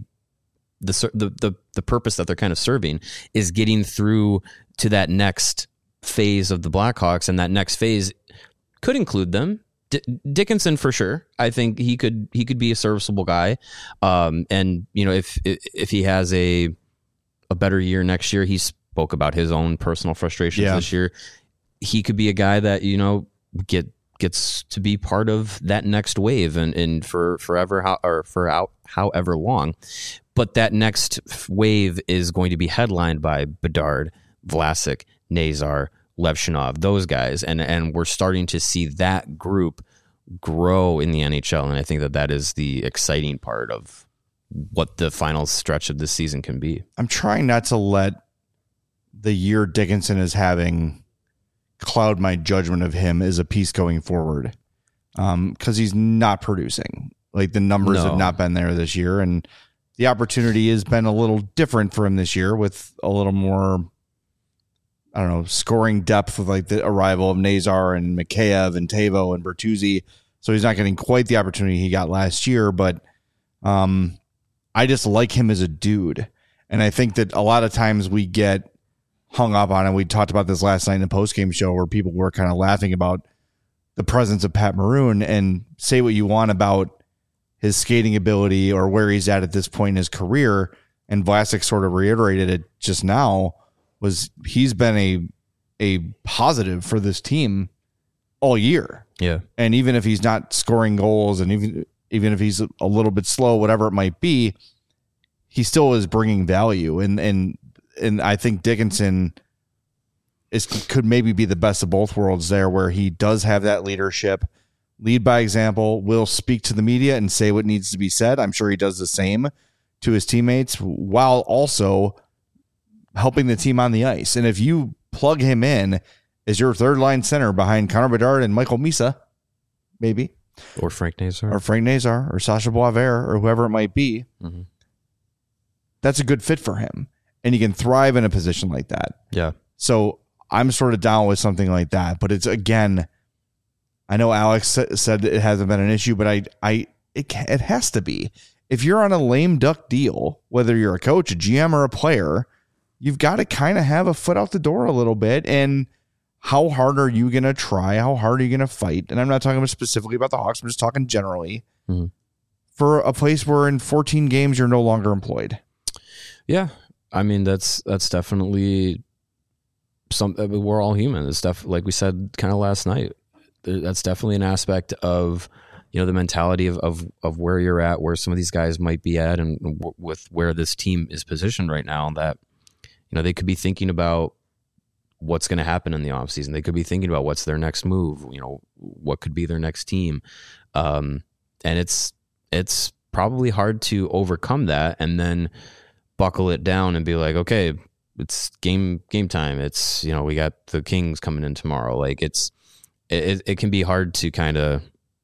the the the the purpose that they're kind of serving is getting through to that next phase of the Blackhawks, and that next phase could include them. D- Dickinson for sure. I think he could he could be a serviceable guy, um, and you know if if he has a a better year next year, he spoke about his own personal frustrations Yeah. this year. He could be a guy that you know get gets to be part of that next wave, and and for forever how, or for out however long. But that next wave is going to be headlined by Bedard, Vlasic, Nazar, Levshunov, those guys, and and we're starting to see that group grow in the N H L, and I think that that is the exciting part of what the final stretch of this season can be. I'm trying not to let the year Dickinson is having cloud my judgment of him as a piece going forward, um, because he's not producing. Like the numbers No. have not been there this year, and the opportunity has been a little different for him this year with a little more, I don't know, scoring depth with like the arrival of Nazar and Mikheyev and Tavo and Bertuzzi. So he's not getting quite the opportunity he got last year, but um, I just like him as a dude. And I think that a lot of times we get hung up on it. We talked about this last night in the postgame show where people were kind of laughing about the presence of Pat Maroon, and say what you want about his skating ability or where he's at at this point in his career. And Vlasic sort of reiterated it just now, was he's been a a positive for this team all year. Yeah. And even if he's not scoring goals, and even even if he's a little bit slow, whatever it might be, he still is bringing value. And and and I think Dickinson is could maybe be the best of both worlds there, where he does have that leadership, lead by example, will speak to the media and say what needs to be said. I'm sure he does the same to his teammates, while also helping the team on the ice. And if you plug him in as your third line center behind Connor Bedard and Michael Misa, maybe, Or Frank Nazar. or Frank Nazar or Sasha Boisvert or whoever it might be, Mm-hmm. that's a good fit for him. And he can thrive in a position like that. Yeah. So I'm sort of down with something like that. But it's, again, I know Alex sa- said it hasn't been an issue, but I, I, it, ca- it has to be. If you're on a lame duck deal, whether you're a coach, a G M, or a player, you've got to kind of have a foot out the door a little bit. And how hard are you going to try? How hard are you going to fight? And I'm not talking specifically about the Hawks. I'm just talking generally mm-hmm. for a place where in fourteen games, you're no longer employed. Yeah. I mean, that's, that's definitely some, we're all human. It's stuff, like we said, kind of last night, that's definitely an aspect of, you know, the mentality of, of, of where you're at, where some of these guys might be at, and w- with where this team is positioned right now, that, you know, they could be thinking about what's going to happen in the offseason. They could be thinking about what's their next move, you know, what could be their next team. Um, and it's, it's probably hard to overcome that and then buckle it down and be like, okay, it's game, game time. It's, you know, we got the Kings coming in tomorrow. Like it's, it, it can be hard to kind of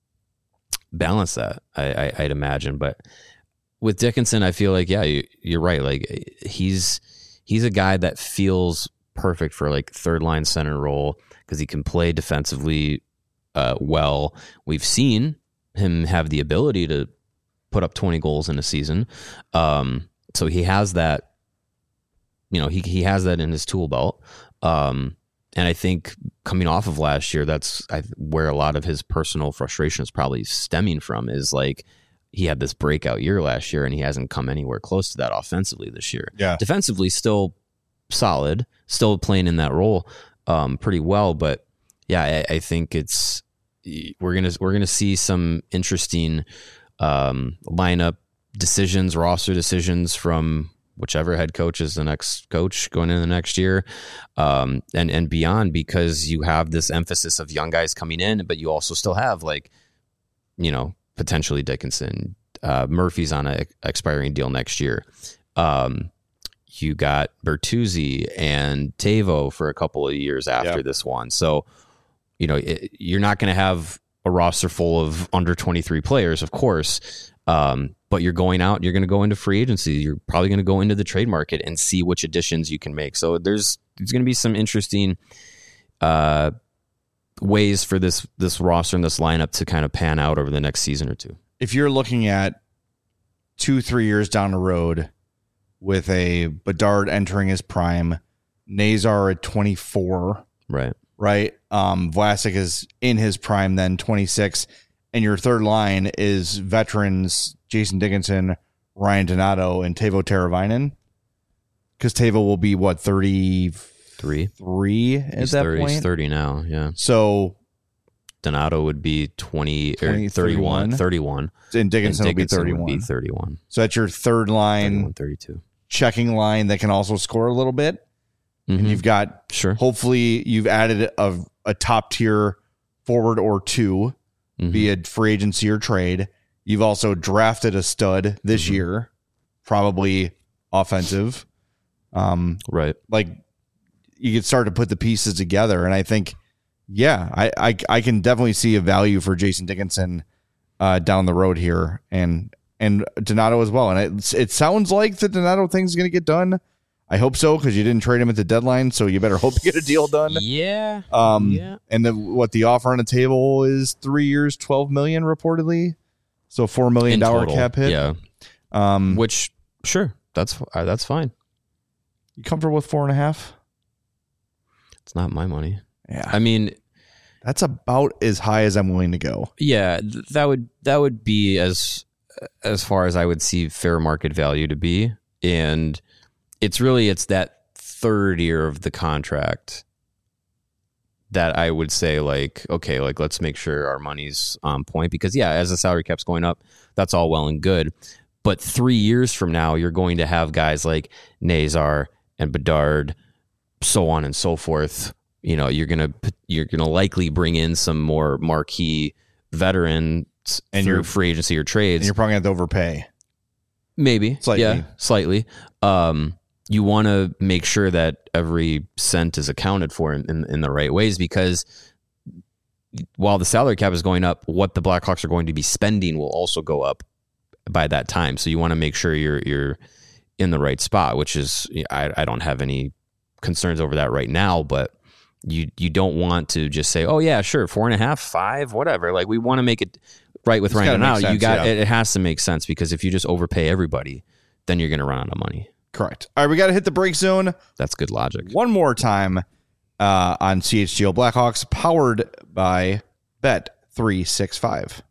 balance that, I, I, I'd imagine. But with Dickinson, I feel like, yeah, you, you're right. Like he's, he's a guy that feels perfect for like third line center role because he can play defensively uh, well. We've seen him have the ability to put up twenty goals in a season. Um, so he has that, you know, he, he has that in his tool belt. Um, and I think coming off of last year, that's I, where a lot of his personal frustration is probably stemming from, is like he had this breakout year last year and he hasn't come anywhere close to that offensively this year. Yeah. Defensively, still solid, still playing in that role um, pretty well. But yeah, I, I think it's, we're going to, we're going to see some interesting um, lineup decisions, roster decisions from whichever head coach is the next coach going into the next year um, and, and beyond, because you have this emphasis of young guys coming in, but you also still have like, you know, potentially Dickinson, uh, Murphy's on an expiring deal next year. Um, you got Bertuzzi and Tavo for a couple of years after yep. this one. So, you know, it, you're not going to have a roster full of under twenty-three players, of course. Um, but you're going out, you're going to go into free agency. You're probably going to go into the trade market and see which additions you can make. So there's, there's going to be some interesting uh, ways for this, this roster and this lineup to kind of pan out over the next season or two. If you're looking at two, three years down the road with a Bedard entering his prime, Nazar at twenty-four, right? Right. Um, Vlasic is in his prime, then twenty-six. And your third line is veterans Jason Dickinson, Ryan Donato, and Teuvo Teravainen. Because Teuvo will be, what, thirty-three Three. at he's that thirty, point? He's thirty now, yeah. So Donato would be twenty, twenty or thirty-one. thirty-one. And Dickinson, and Dickinson will be thirty-one. Would be thirty-one. So that's your third line thirty-two. checking line that can also score a little bit. Mm-hmm. And you've got, sure. hopefully, you've added a, a top tier forward or two. Mm-hmm. Be it free agency or trade. You've also drafted a stud this mm-hmm. year, probably offensive. Um, right. Like you could start to put the pieces together. And I think, yeah, I, I, I can definitely see a value for Jason Dickinson uh, down the road here and, and Donato as well. And it, it sounds like the Donato thing's going to get done. I hope so, because you didn't trade him at the deadline, so you better hope you get a deal done. Yeah. Um, yeah. And the, what the offer on the table is three years, twelve million dollars reportedly. So four million dollars cap hit. Yeah. Um, Which, sure, that's uh, that's fine. You comfortable with four and a half? It's not my money. Yeah. I mean, that's about as high as I'm willing to go. Yeah, th- that would that would be as as far as I would see fair market value to be. And it's really, it's that third year of the contract that I would say, like, okay, like, let's make sure our money's on point. Because, yeah, as the salary cap's going up, that's all well and good. But three years from now, you're going to have guys like Nazar and Bedard, so on and so forth. You know, you're gonna you're gonna likely bring in some more marquee veterans and through free agency or trades. And you're probably going to have to overpay. Maybe. Slightly. Yeah, slightly. Um, you want to make sure that every cent is accounted for in, in, in the right ways, because while the salary cap is going up, what the Blackhawks are going to be spending will also go up by that time. So you want to make sure you're you're in the right spot, which is, I, I don't have any concerns over that right now, but you you don't want to just say, oh yeah, sure, four and a half, five, whatever. Like, we want to make it right with Ryan now. You got yeah. it, it has to make sense, because if you just overpay everybody, then you're going to run out of money. Correct. All right, we got to hit the break zone That's good logic. one more time uh, on C H G O Blackhawks, powered by Bet three sixty-five.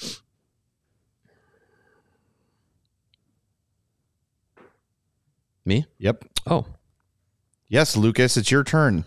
Me? Yep. Oh. Yes, Lucas, it's your turn.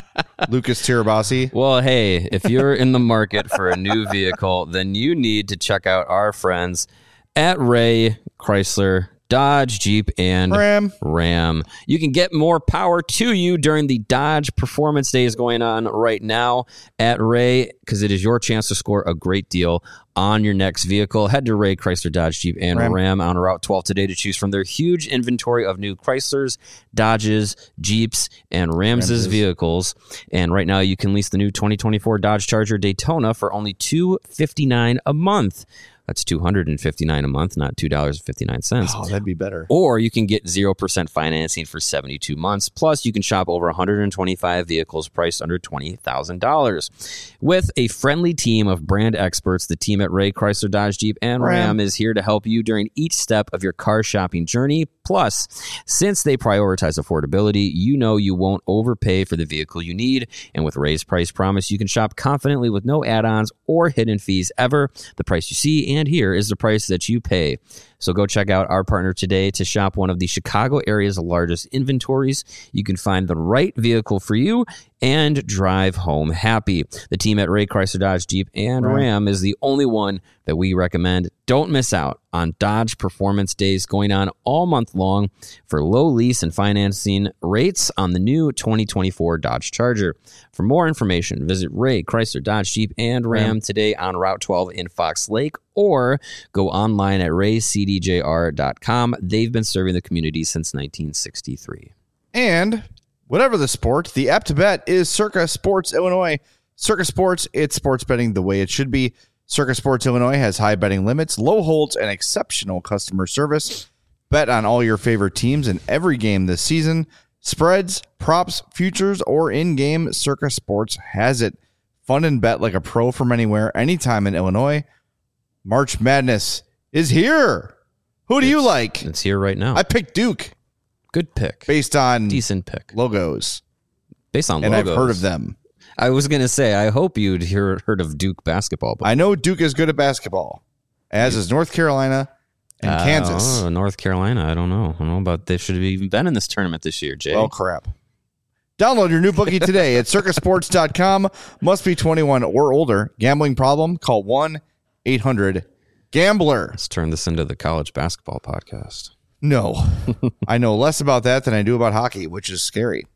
Lucas Tirabassi. Well, hey, if you're in the market for a new vehicle, then you need to check out our friends at Ray Chrysler Dodge, Jeep, and Ram. Ram. You can get more power to you during the Dodge Performance Days going on right now at Ray, because it is your chance to score a great deal on your next vehicle. Head to Ray Chrysler Dodge, Jeep, and Ram. Ram on Route twelve today to choose from their huge inventory of new Chryslers, Dodges, Jeeps, and Ramses Ramses. vehicles. And right now you can lease the new twenty twenty-four Dodge Charger Daytona for only two hundred fifty-nine dollars a month. That's two hundred fifty-nine dollars a month, not two dollars and fifty-nine cents. Oh, that'd be better. Or you can get zero percent financing for seventy-two months. Plus, you can shop over one hundred twenty-five vehicles priced under twenty thousand dollars. With a friendly team of brand experts, the team at Ray Chrysler Dodge Jeep and Ram, Ram. is here to help you during each step of your car shopping journey. Plus, since they prioritize affordability, you know you won't overpay for the vehicle you need. And with Ray's Price Promise, you can shop confidently with no add-ons or hidden fees ever. The price you see and hear is the price that you pay. So go check out our partner today to shop one of the Chicago area's largest inventories. You can find the right vehicle for you and drive home happy. The team at Ray Chrysler Dodge Jeep and Right. Ram is the only one that we recommend. Don't miss out on Dodge Performance Days going on all month long for low lease and financing rates on the new twenty twenty-four Dodge Charger. For more information, visit Ray Chrysler Dodge Jeep and Ram Ram. today on Route twelve in Fox Lake, or go online at ray c d j r dot com. They've been serving the community since nineteen sixty-three. And whatever the sport, the app to bet is Circa Sports Illinois. Circa Sports, it's sports betting the way it should be. Circa Sports Illinois has high betting limits, low holds, and exceptional customer service. Bet on all your favorite teams in every game this season. Spreads, props, futures, or in-game, Circa Sports has it. Fun and bet like a pro from anywhere, anytime in Illinois. March Madness is here. Who do you It's- like? It's here right now. I picked Duke Good pick. based on Decent pick. logos, Based on and logos. I've heard of them. I was going to say, I hope you'd hear, heard of Duke basketball. But I know Duke is good at basketball, as is North Carolina and Uh, Kansas. oh, North Carolina. I don't know. I don't know about they should have even been in this tournament this year, Jay. Well, crap. Download your new bookie today at circa sports dot com. Must be twenty-one or older. Gambling problem? Call one eight hundred gambler. Let's turn this into the college basketball podcast. No, I know less about that than I do about hockey, which is scary.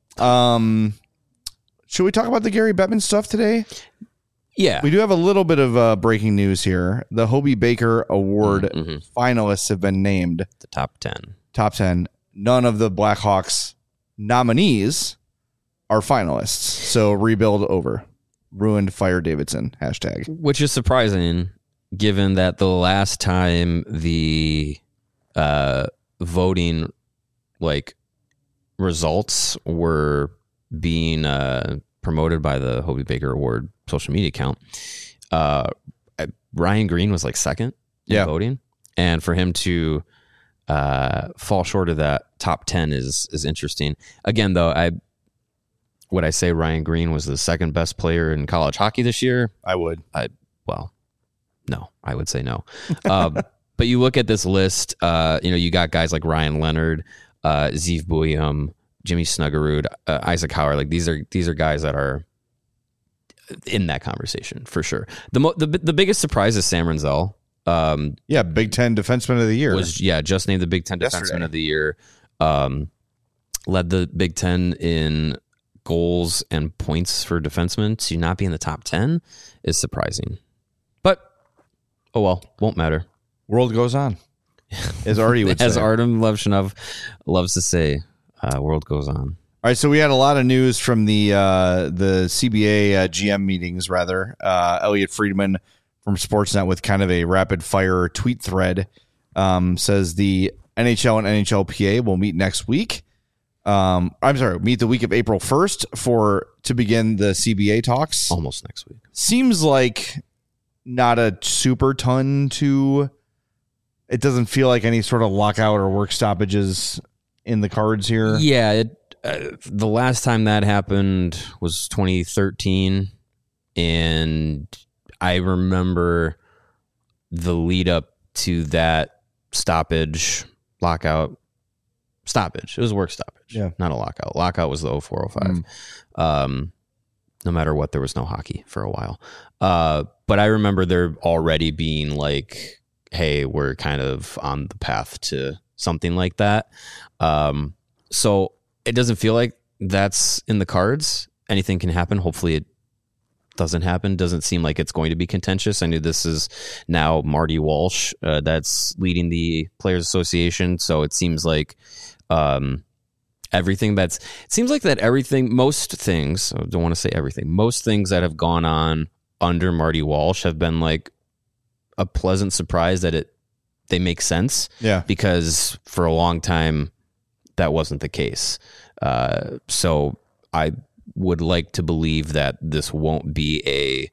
Um, should we talk about the Gary Bettman stuff today? Yeah. We do have a little bit of uh, breaking news here. The Hobie Baker Award Mhm. finalists have been named. The top ten. Top ten. None of the Blackhawks nominees are finalists. So rebuild over. Ruined, fire Davidson. Hashtag. Which is surprising, given that the last time the uh, voting like results were being uh, promoted by the Hobie Baker Award social media account, uh, Ryan Green was like second in Yeah. voting, and for him to uh, fall short of that top ten is is interesting. Again, though, I would I say Ryan Green was the second best player in college hockey this year? I would. Well, no, I would say no. Um, but you look at this list, uh, you know, you got guys like Ryan Leonard, uh, Zeev Buium, Jimmy Snuggerud, uh, Isaac Howard. Like these are these are guys that are in that conversation for sure. The mo- the the biggest surprise is Sam Renzel. Um, Yeah, Big Ten Defenseman of the Year. was yeah just named the Big Ten Yesterday. Defenseman of the Year. Um, led the Big Ten in goals and points for defensemen. To not be in the top ten is surprising. But oh well, won't matter. World goes on. As Artie would As say. Artem Levshinov loves to say, uh, world goes on. All right, so we had a lot of news from the uh, the C B A uh, G M meetings, rather. Uh, Elliot Friedman from Sportsnet with kind of a rapid fire tweet thread um, says the N H L and N H L P A will meet next week. Um, I'm sorry, meet the week of April first for to begin the C B A talks. Almost next week. Seems like not a super ton to. It doesn't feel like any sort of lockout or work stoppages in the cards here? Yeah, it, uh, the last time that happened was twenty thirteen, and I remember the lead up to that stoppage, lockout, stoppage. It was work stoppage, Yeah. not a lockout. Lockout was the oh four oh five. Mm. Um, no matter what, there was no hockey for a while. Uh, but I remember there already being like, hey, we're kind of on the path to something like that. Um, so it doesn't feel like that's in the cards. Anything can happen. Hopefully it doesn't happen. Doesn't seem like it's going to be contentious. I knew this is now Marty Walsh uh, that's leading the Players Association. So it seems like um, everything that's, it seems like that everything, most things, I don't want to say everything, most things that have gone on under Marty Walsh have been like a pleasant surprise that it, they make sense. Yeah. Because for a long time, that wasn't the case. Uh, so I would like to believe that this won't be a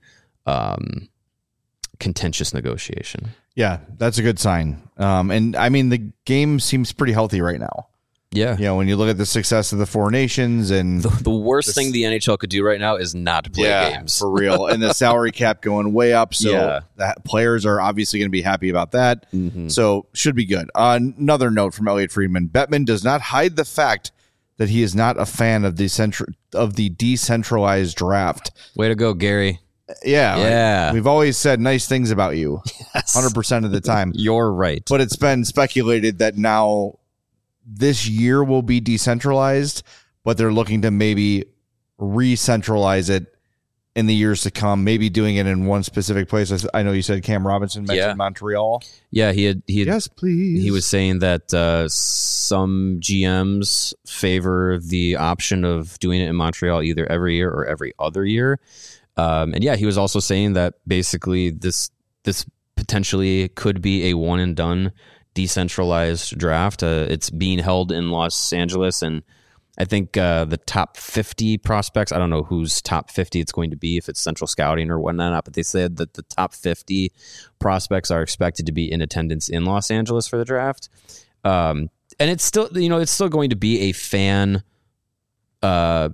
um, contentious negotiation. Yeah, that's a good sign. Um, and I mean, the game seems pretty healthy right now. Yeah. You know, when you look at the success of the Four Nations and the, the worst this, thing the N H L could do right now is not play yeah, games. For real. And the salary cap going way up. So Yeah. that players are obviously going to be happy about that. Mm-hmm. So should be good. Uh, another note from Elliot Friedman. Bettman does not hide the fact that he is not a fan of the centra- of the decentralized draft. Way to go, Gary. Yeah. Yeah. Like, we've always said nice things about you Yes. one hundred percent of the time. You're right. But it's been speculated that now this year will be decentralized, but they're looking to maybe re-centralize it in the years to come, maybe doing it in one specific place. I know you said Cam Robinson mentioned Yeah. Montreal. Yeah, he had he had Yes, please. He was saying that uh, some G Ms favor the option of doing it in Montreal either every year or every other year. Um, and yeah, he was also saying that basically this this potentially could be a one and done decentralized draft. Uh, it's being held in Los Angeles, and I think uh, the top fifty prospects, I don't know whose top fifty it's going to be, if it's Central Scouting or whatnot, but they said that the top fifty prospects are expected to be in attendance in Los Angeles for the draft. Um, and it's still, you know, it's still going to be a fan uh,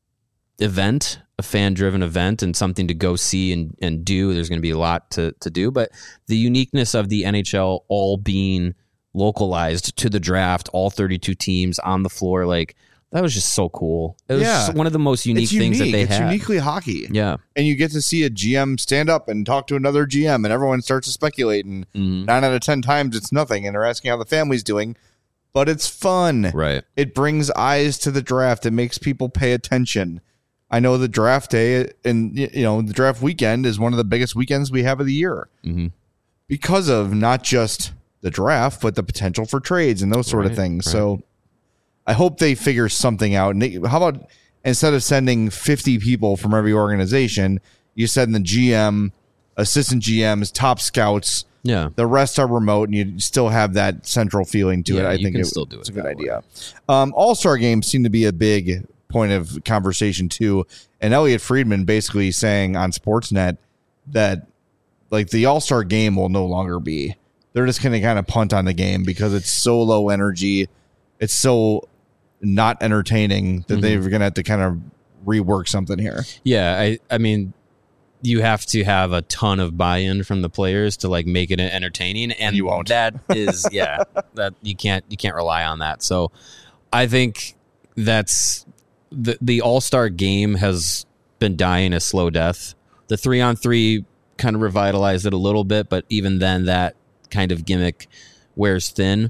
event, a fan-driven event, and something to go see and, and do. There's going to be a lot to, to do, but the uniqueness of the N H L all being localized to the draft, all thirty-two teams on the floor, like, that was just so cool. It was Yeah. just one of the most unique it's things unique. that they it's had. uniquely hockey. Yeah. And you get to see a G M stand up and talk to another G M, and everyone starts to speculate, and Mhm. nine out of ten times it's nothing, and they're asking how the family's doing, but it's fun. Right. It brings eyes to the draft. It makes people pay attention. I know the draft day and you know the draft weekend is one of the biggest weekends we have of the year Mm-hmm. because of not just the draft, but the potential for trades and those sort Right, of things. right. So I hope they figure something out. And they, how about instead of sending fifty people from every organization, you send the G M, assistant G Ms, top scouts. Yeah. The rest are remote, and you still have that central feeling to Yeah, it. I you think can it, still do it's it a good that idea. Um, All-Star games seem to be a big point of conversation too. And Elliot Friedman basically saying on Sportsnet that like the All-Star game will no longer be. They're just going to kind of punt on the game because it's so low energy. It's so not entertaining that Mm-hmm. they're going to have to kind of rework something here. Yeah. I, I mean, you have to have a ton of buy-in from the players to like make it entertaining, and You won't. that is, yeah, that you can't, you can't rely on that. So I think that's the, the All-Star game has been dying a slow death. The three on three kind of revitalized it a little bit, but even then that kind of gimmick wears thin.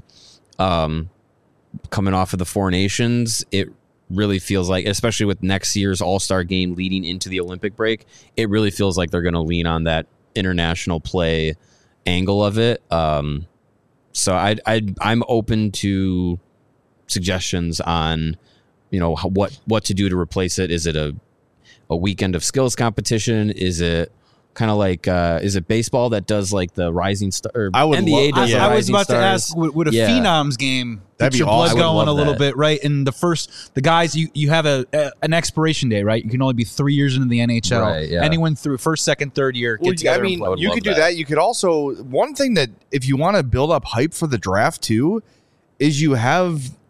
Um, coming off of the Four Nations, it really feels like, especially with next year's All-Star game leading into the Olympic break, it really feels like they're going to lean on that international play angle of it. Um, so I, I, I'm open to suggestions on, you know, how, what what to do to replace it. Is it a a weekend of skills competition? Is it kind of like uh, is it baseball that does like the rising star? Or I would N B A love- does Yeah. the I was rising about stars. to ask, would, would a Yeah. Phenoms game That'd get be your awesome. blood I would going a love little that. bit, right? And the first, the guys, you, you have a, a an expiration day, right? You can only be three years into the N H L. Right, yeah. Anyone through first, second, third year, get Well, together. I mean, and play. would you love could do that. that. You could also, one thing that if you want to build up hype for the draft too, is you have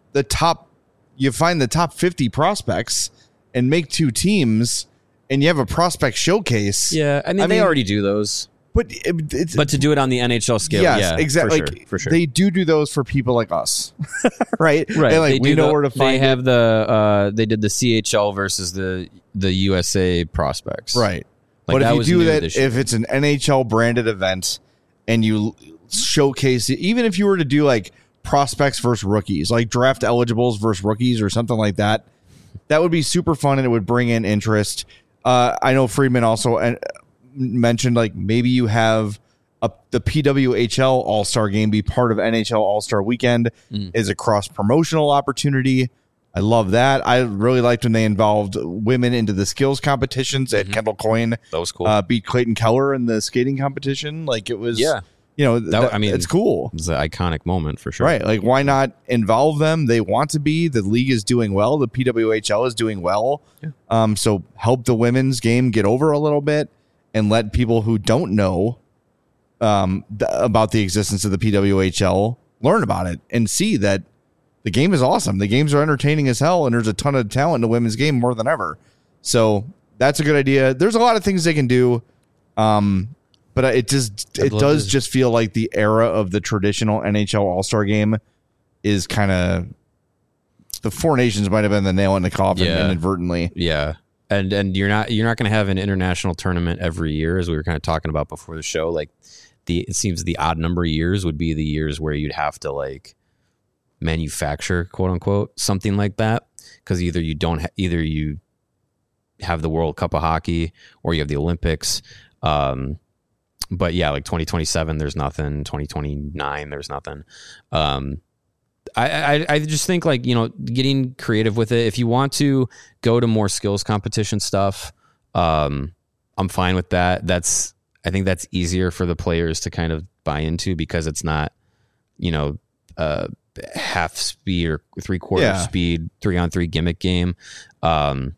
the top, you find the top fifty prospects and make two teams, and you have a prospect showcase. Yeah, I mean, I they mean- already do those. But it, it's But to do it on the N H L scale, yes, yeah, exactly. for sure, Like, for sure. They do do those for people like us, right? Right, And like they we do know the- where to find They it. have the uh, they did the C H L versus the the U S A prospects, Right. Like, but that if you was do new that, this year. if it's an N H L branded event and you showcase it, even if you were to do like prospects versus rookies, like draft eligibles versus rookies or something like that, that would be super fun and it would bring in interest. Uh, I know Friedman also uh, mentioned like maybe you have a, the P W H L All-Star game be part of N H L All-Star Weekend Mm. is a cross-promotional opportunity. I love that. I really liked when they involved women into the skills competitions at Mhm. Kendall Coyne. that was cool. Uh, beat Clayton Keller in the skating competition. Like it was, Yeah. you know, That- that, I mean, it's cool. It's an iconic moment for sure. Right. Like, why not involve them? They want to be. The league is doing well. The P W H L is doing well. Yeah. Um, so help the women's game get over a little bit and let people who don't know um, th- about the existence of the P W H L learn about it and see that the game is awesome. The games are entertaining as hell, and there's a ton of talent in the women's game more than ever. So that's a good idea. There's a lot of things they can do. Um, but it just I'd it love does to- just feel like the era of the traditional N H L All-Star game is kind of the Four Nations might have been the nail in the coffin Yeah. inadvertently. Yeah. And and you're not you're not going to have an international tournament every year, as we were kind of talking about before the show. Like the it seems the odd number of years would be the years where you'd have to like manufacture, quote unquote, something like that, because either you don't ha- either you have the World Cup of Hockey or you have the Olympics. Um, but yeah, like twenty twenty-seven, there's nothing. twenty twenty-nine, there's nothing. Um, I, I I just think like, you know, getting creative with it. If you want to go to more skills competition stuff, um, I'm fine with that. That's I think that's easier for the players to kind of buy into because it's not, you know, uh, half speed or three quarter Yeah. speed, three on three gimmick game. Um,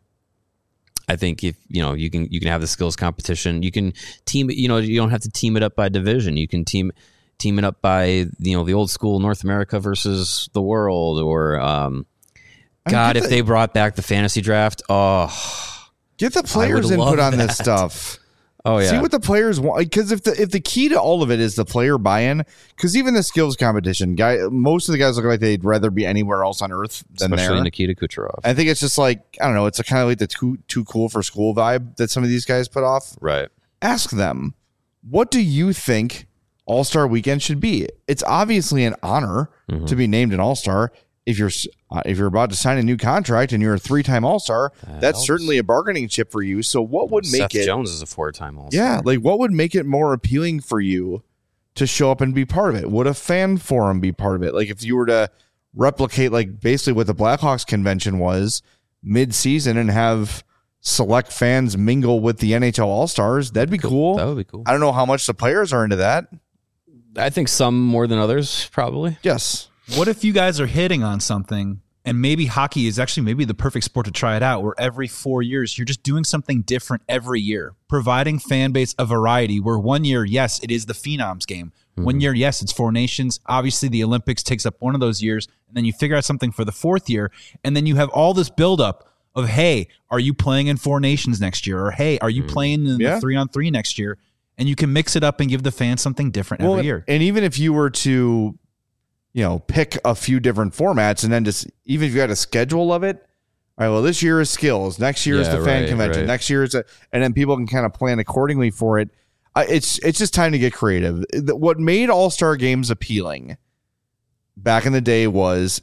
I think if you know you can you can have the skills competition. You can team. You know, you don't have to team it up by division. You can team. team it up by, you know, the old school North America versus the world, or um, I mean, God, get if the- they brought back the fantasy draft, oh, Get the players would input love on this that. stuff. oh yeah, See what the players want, because if the if the key to all of it is the player buy-in, because even the skills competition, guy, most of the guys look like they'd rather be anywhere else on earth than especially there. Nikita Kucherov, I think it's just like I don't know. It's a kind of like the too too cool for school vibe that some of these guys put off. right? Ask them, what do you think All-Star Weekend should be? It's obviously an honor Mhm. to be named an All-Star. If you're uh, if you're about to sign a new contract and you're a three-time All-Star, That that's helps. certainly a bargaining chip for you. So what would make Seth it? Jones is a four-time All-Star. Yeah, like what would make it more appealing for you to show up and be part of it? Would a fan forum be part of it? Like if you were to replicate like basically what the Blackhawks convention was mid-season and have select fans mingle with the N H L All-Stars, that'd be cool. That would be cool. I don't know how much the players are into that. I think some more than others, probably. Yes. What if you guys are hitting on something and maybe hockey is actually maybe the perfect sport to try it out, where every four years you're just doing something different every year, providing fan base a variety where one year, yes, it is the Phenoms game. One year, yes, it's Four Nations. Obviously, the Olympics takes up one of those years, and then you figure out something for the fourth year, and then you have all this buildup of, hey, are you playing in Four Nations next year? Or, hey, are you playing in Yeah. the three-on-three next year? And you can mix it up and give the fans something different every year. And even if you were to, you know, pick a few different formats and then just, even if you had a schedule of it, all right, well, this year is skills. Next year is Yeah, the fan right, convention. right. Next year is a, and then people can kind of plan accordingly for it. Uh, it's, it's just time to get creative. The- What made All-Star games appealing back in the day was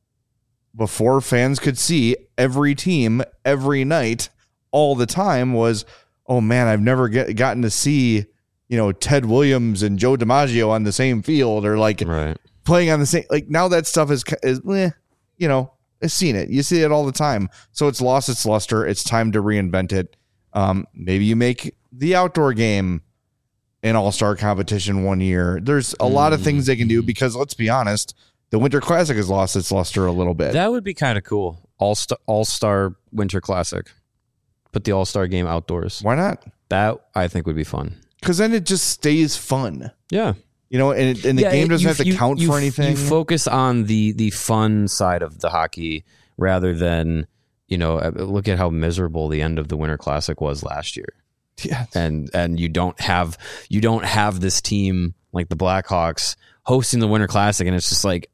before fans could see every team every night all the time was, oh man, I've never get, gotten to see, you know, Ted Williams and Joe DiMaggio on the same field or like Right. playing on the same, like now that stuff is, is eh, you know, I've seen it. You see it all the time. So it's lost its luster. It's time to reinvent it. Um, maybe you make the outdoor game an all-star competition one year. There's a lot of things they can do because let's be honest, the Winter Classic has lost its luster a little bit. That would be kind of cool. All star, all star Winter Classic. Put the All Star game outdoors. Why not? That I think would be fun. Because then it just stays fun. Yeah. You know, and, and the Yeah, game doesn't you- have to you- count you- for anything. You focus on the the fun side of the hockey rather than, you know, look at how miserable the end of the Winter Classic was last year. Yeah. And and you don't have you don't have this team like the Blackhawks hosting the Winter Classic, and it's just like,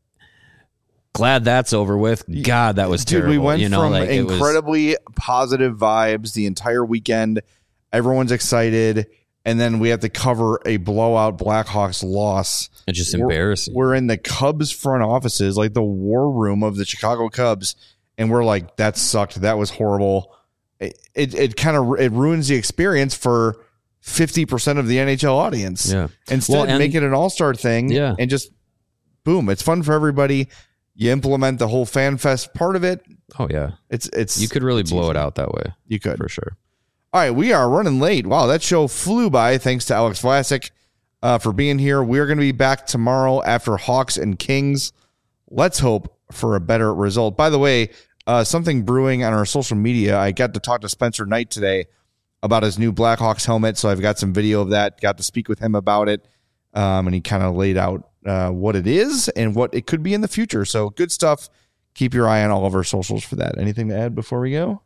glad that's over with. God, that was Dude, terrible. we went you know, from like, it was- incredibly positive vibes the entire weekend. Everyone's excited. And then we have to cover a blowout Blackhawks loss. It's just We're- embarrassing. We're in the Cubs front offices, like the war room of the Chicago Cubs. And we're like, that sucked. That was horrible. It it, it kind of it ruins the experience for fifty percent of the N H L audience. Yeah. Instead, Well, and- make it an all-star thing. Yeah. And just boom, it's fun for everybody. You implement the whole fan fest part of it. Oh yeah, It's it's you could really it's blow easy. it out that way You could. for sure. All right, we are running late. Wow, that show flew by. Thanks to Alex Vlasic uh, for being here. We're going to be back tomorrow after Hawks and Kings. Let's hope for a better result. By the way, uh, something brewing on our social media. I got to talk to Spencer Knight today about his new Blackhawks helmet, so I've got some video of that. Got to speak with him about it, um, and he kind of laid out uh, what it is and what it could be in the future. So good stuff. Keep your eye on all of our socials for that. Anything to add before we go?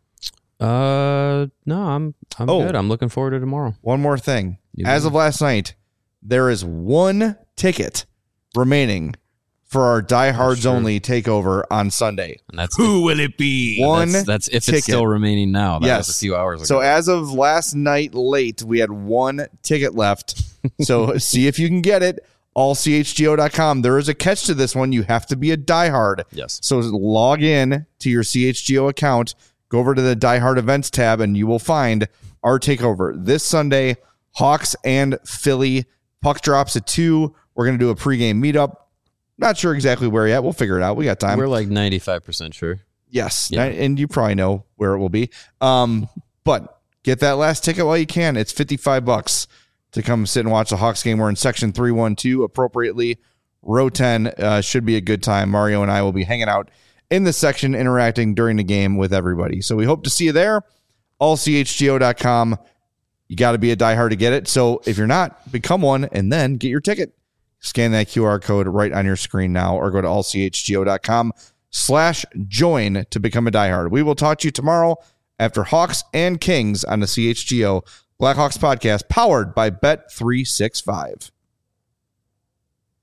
Uh, no, I'm I'm Oh. good. I'm looking forward to tomorrow. One more thing. You As go. of last night, there is one ticket remaining for our diehards Sure. only takeover on Sunday. And that's Who will it be? One that's, that's if ticket. it's still remaining now. That Yes. was a few hours ago. So as of last night late, we had one ticket left. So see if you can get it. all c h g o dot com. There is a catch to this one. You have to be a diehard. yes. So log in to your C H G O account, go over to the Die Hard Events tab, and you will find our takeover this Sunday. Hawks and Philly. Puck drops at two. We're going to do a pregame meetup. Not sure exactly where yet. We'll figure it out. We got time. We're like ninety-five percent sure. Yes, Yeah. and you probably know where it will be. Um, but get that last ticket while you can. It's fifty-five bucks to come sit and watch the Hawks game. We're in section three one two appropriately. Row ten uh, should be a good time. Mario and I will be hanging out in the section, interacting during the game with everybody. So we hope to see you there. all c h g o dot com. You got to be a diehard to get it. So if you're not, become one and then get your ticket. Scan that Q R code right on your screen now, or go to all c h g o dot com slash join to become a diehard. We will talk to you tomorrow after Hawks and Kings on the C H G O Blackhawks podcast, powered by Bet three sixty-five.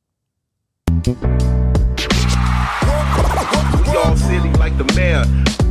We all silly like the mayor.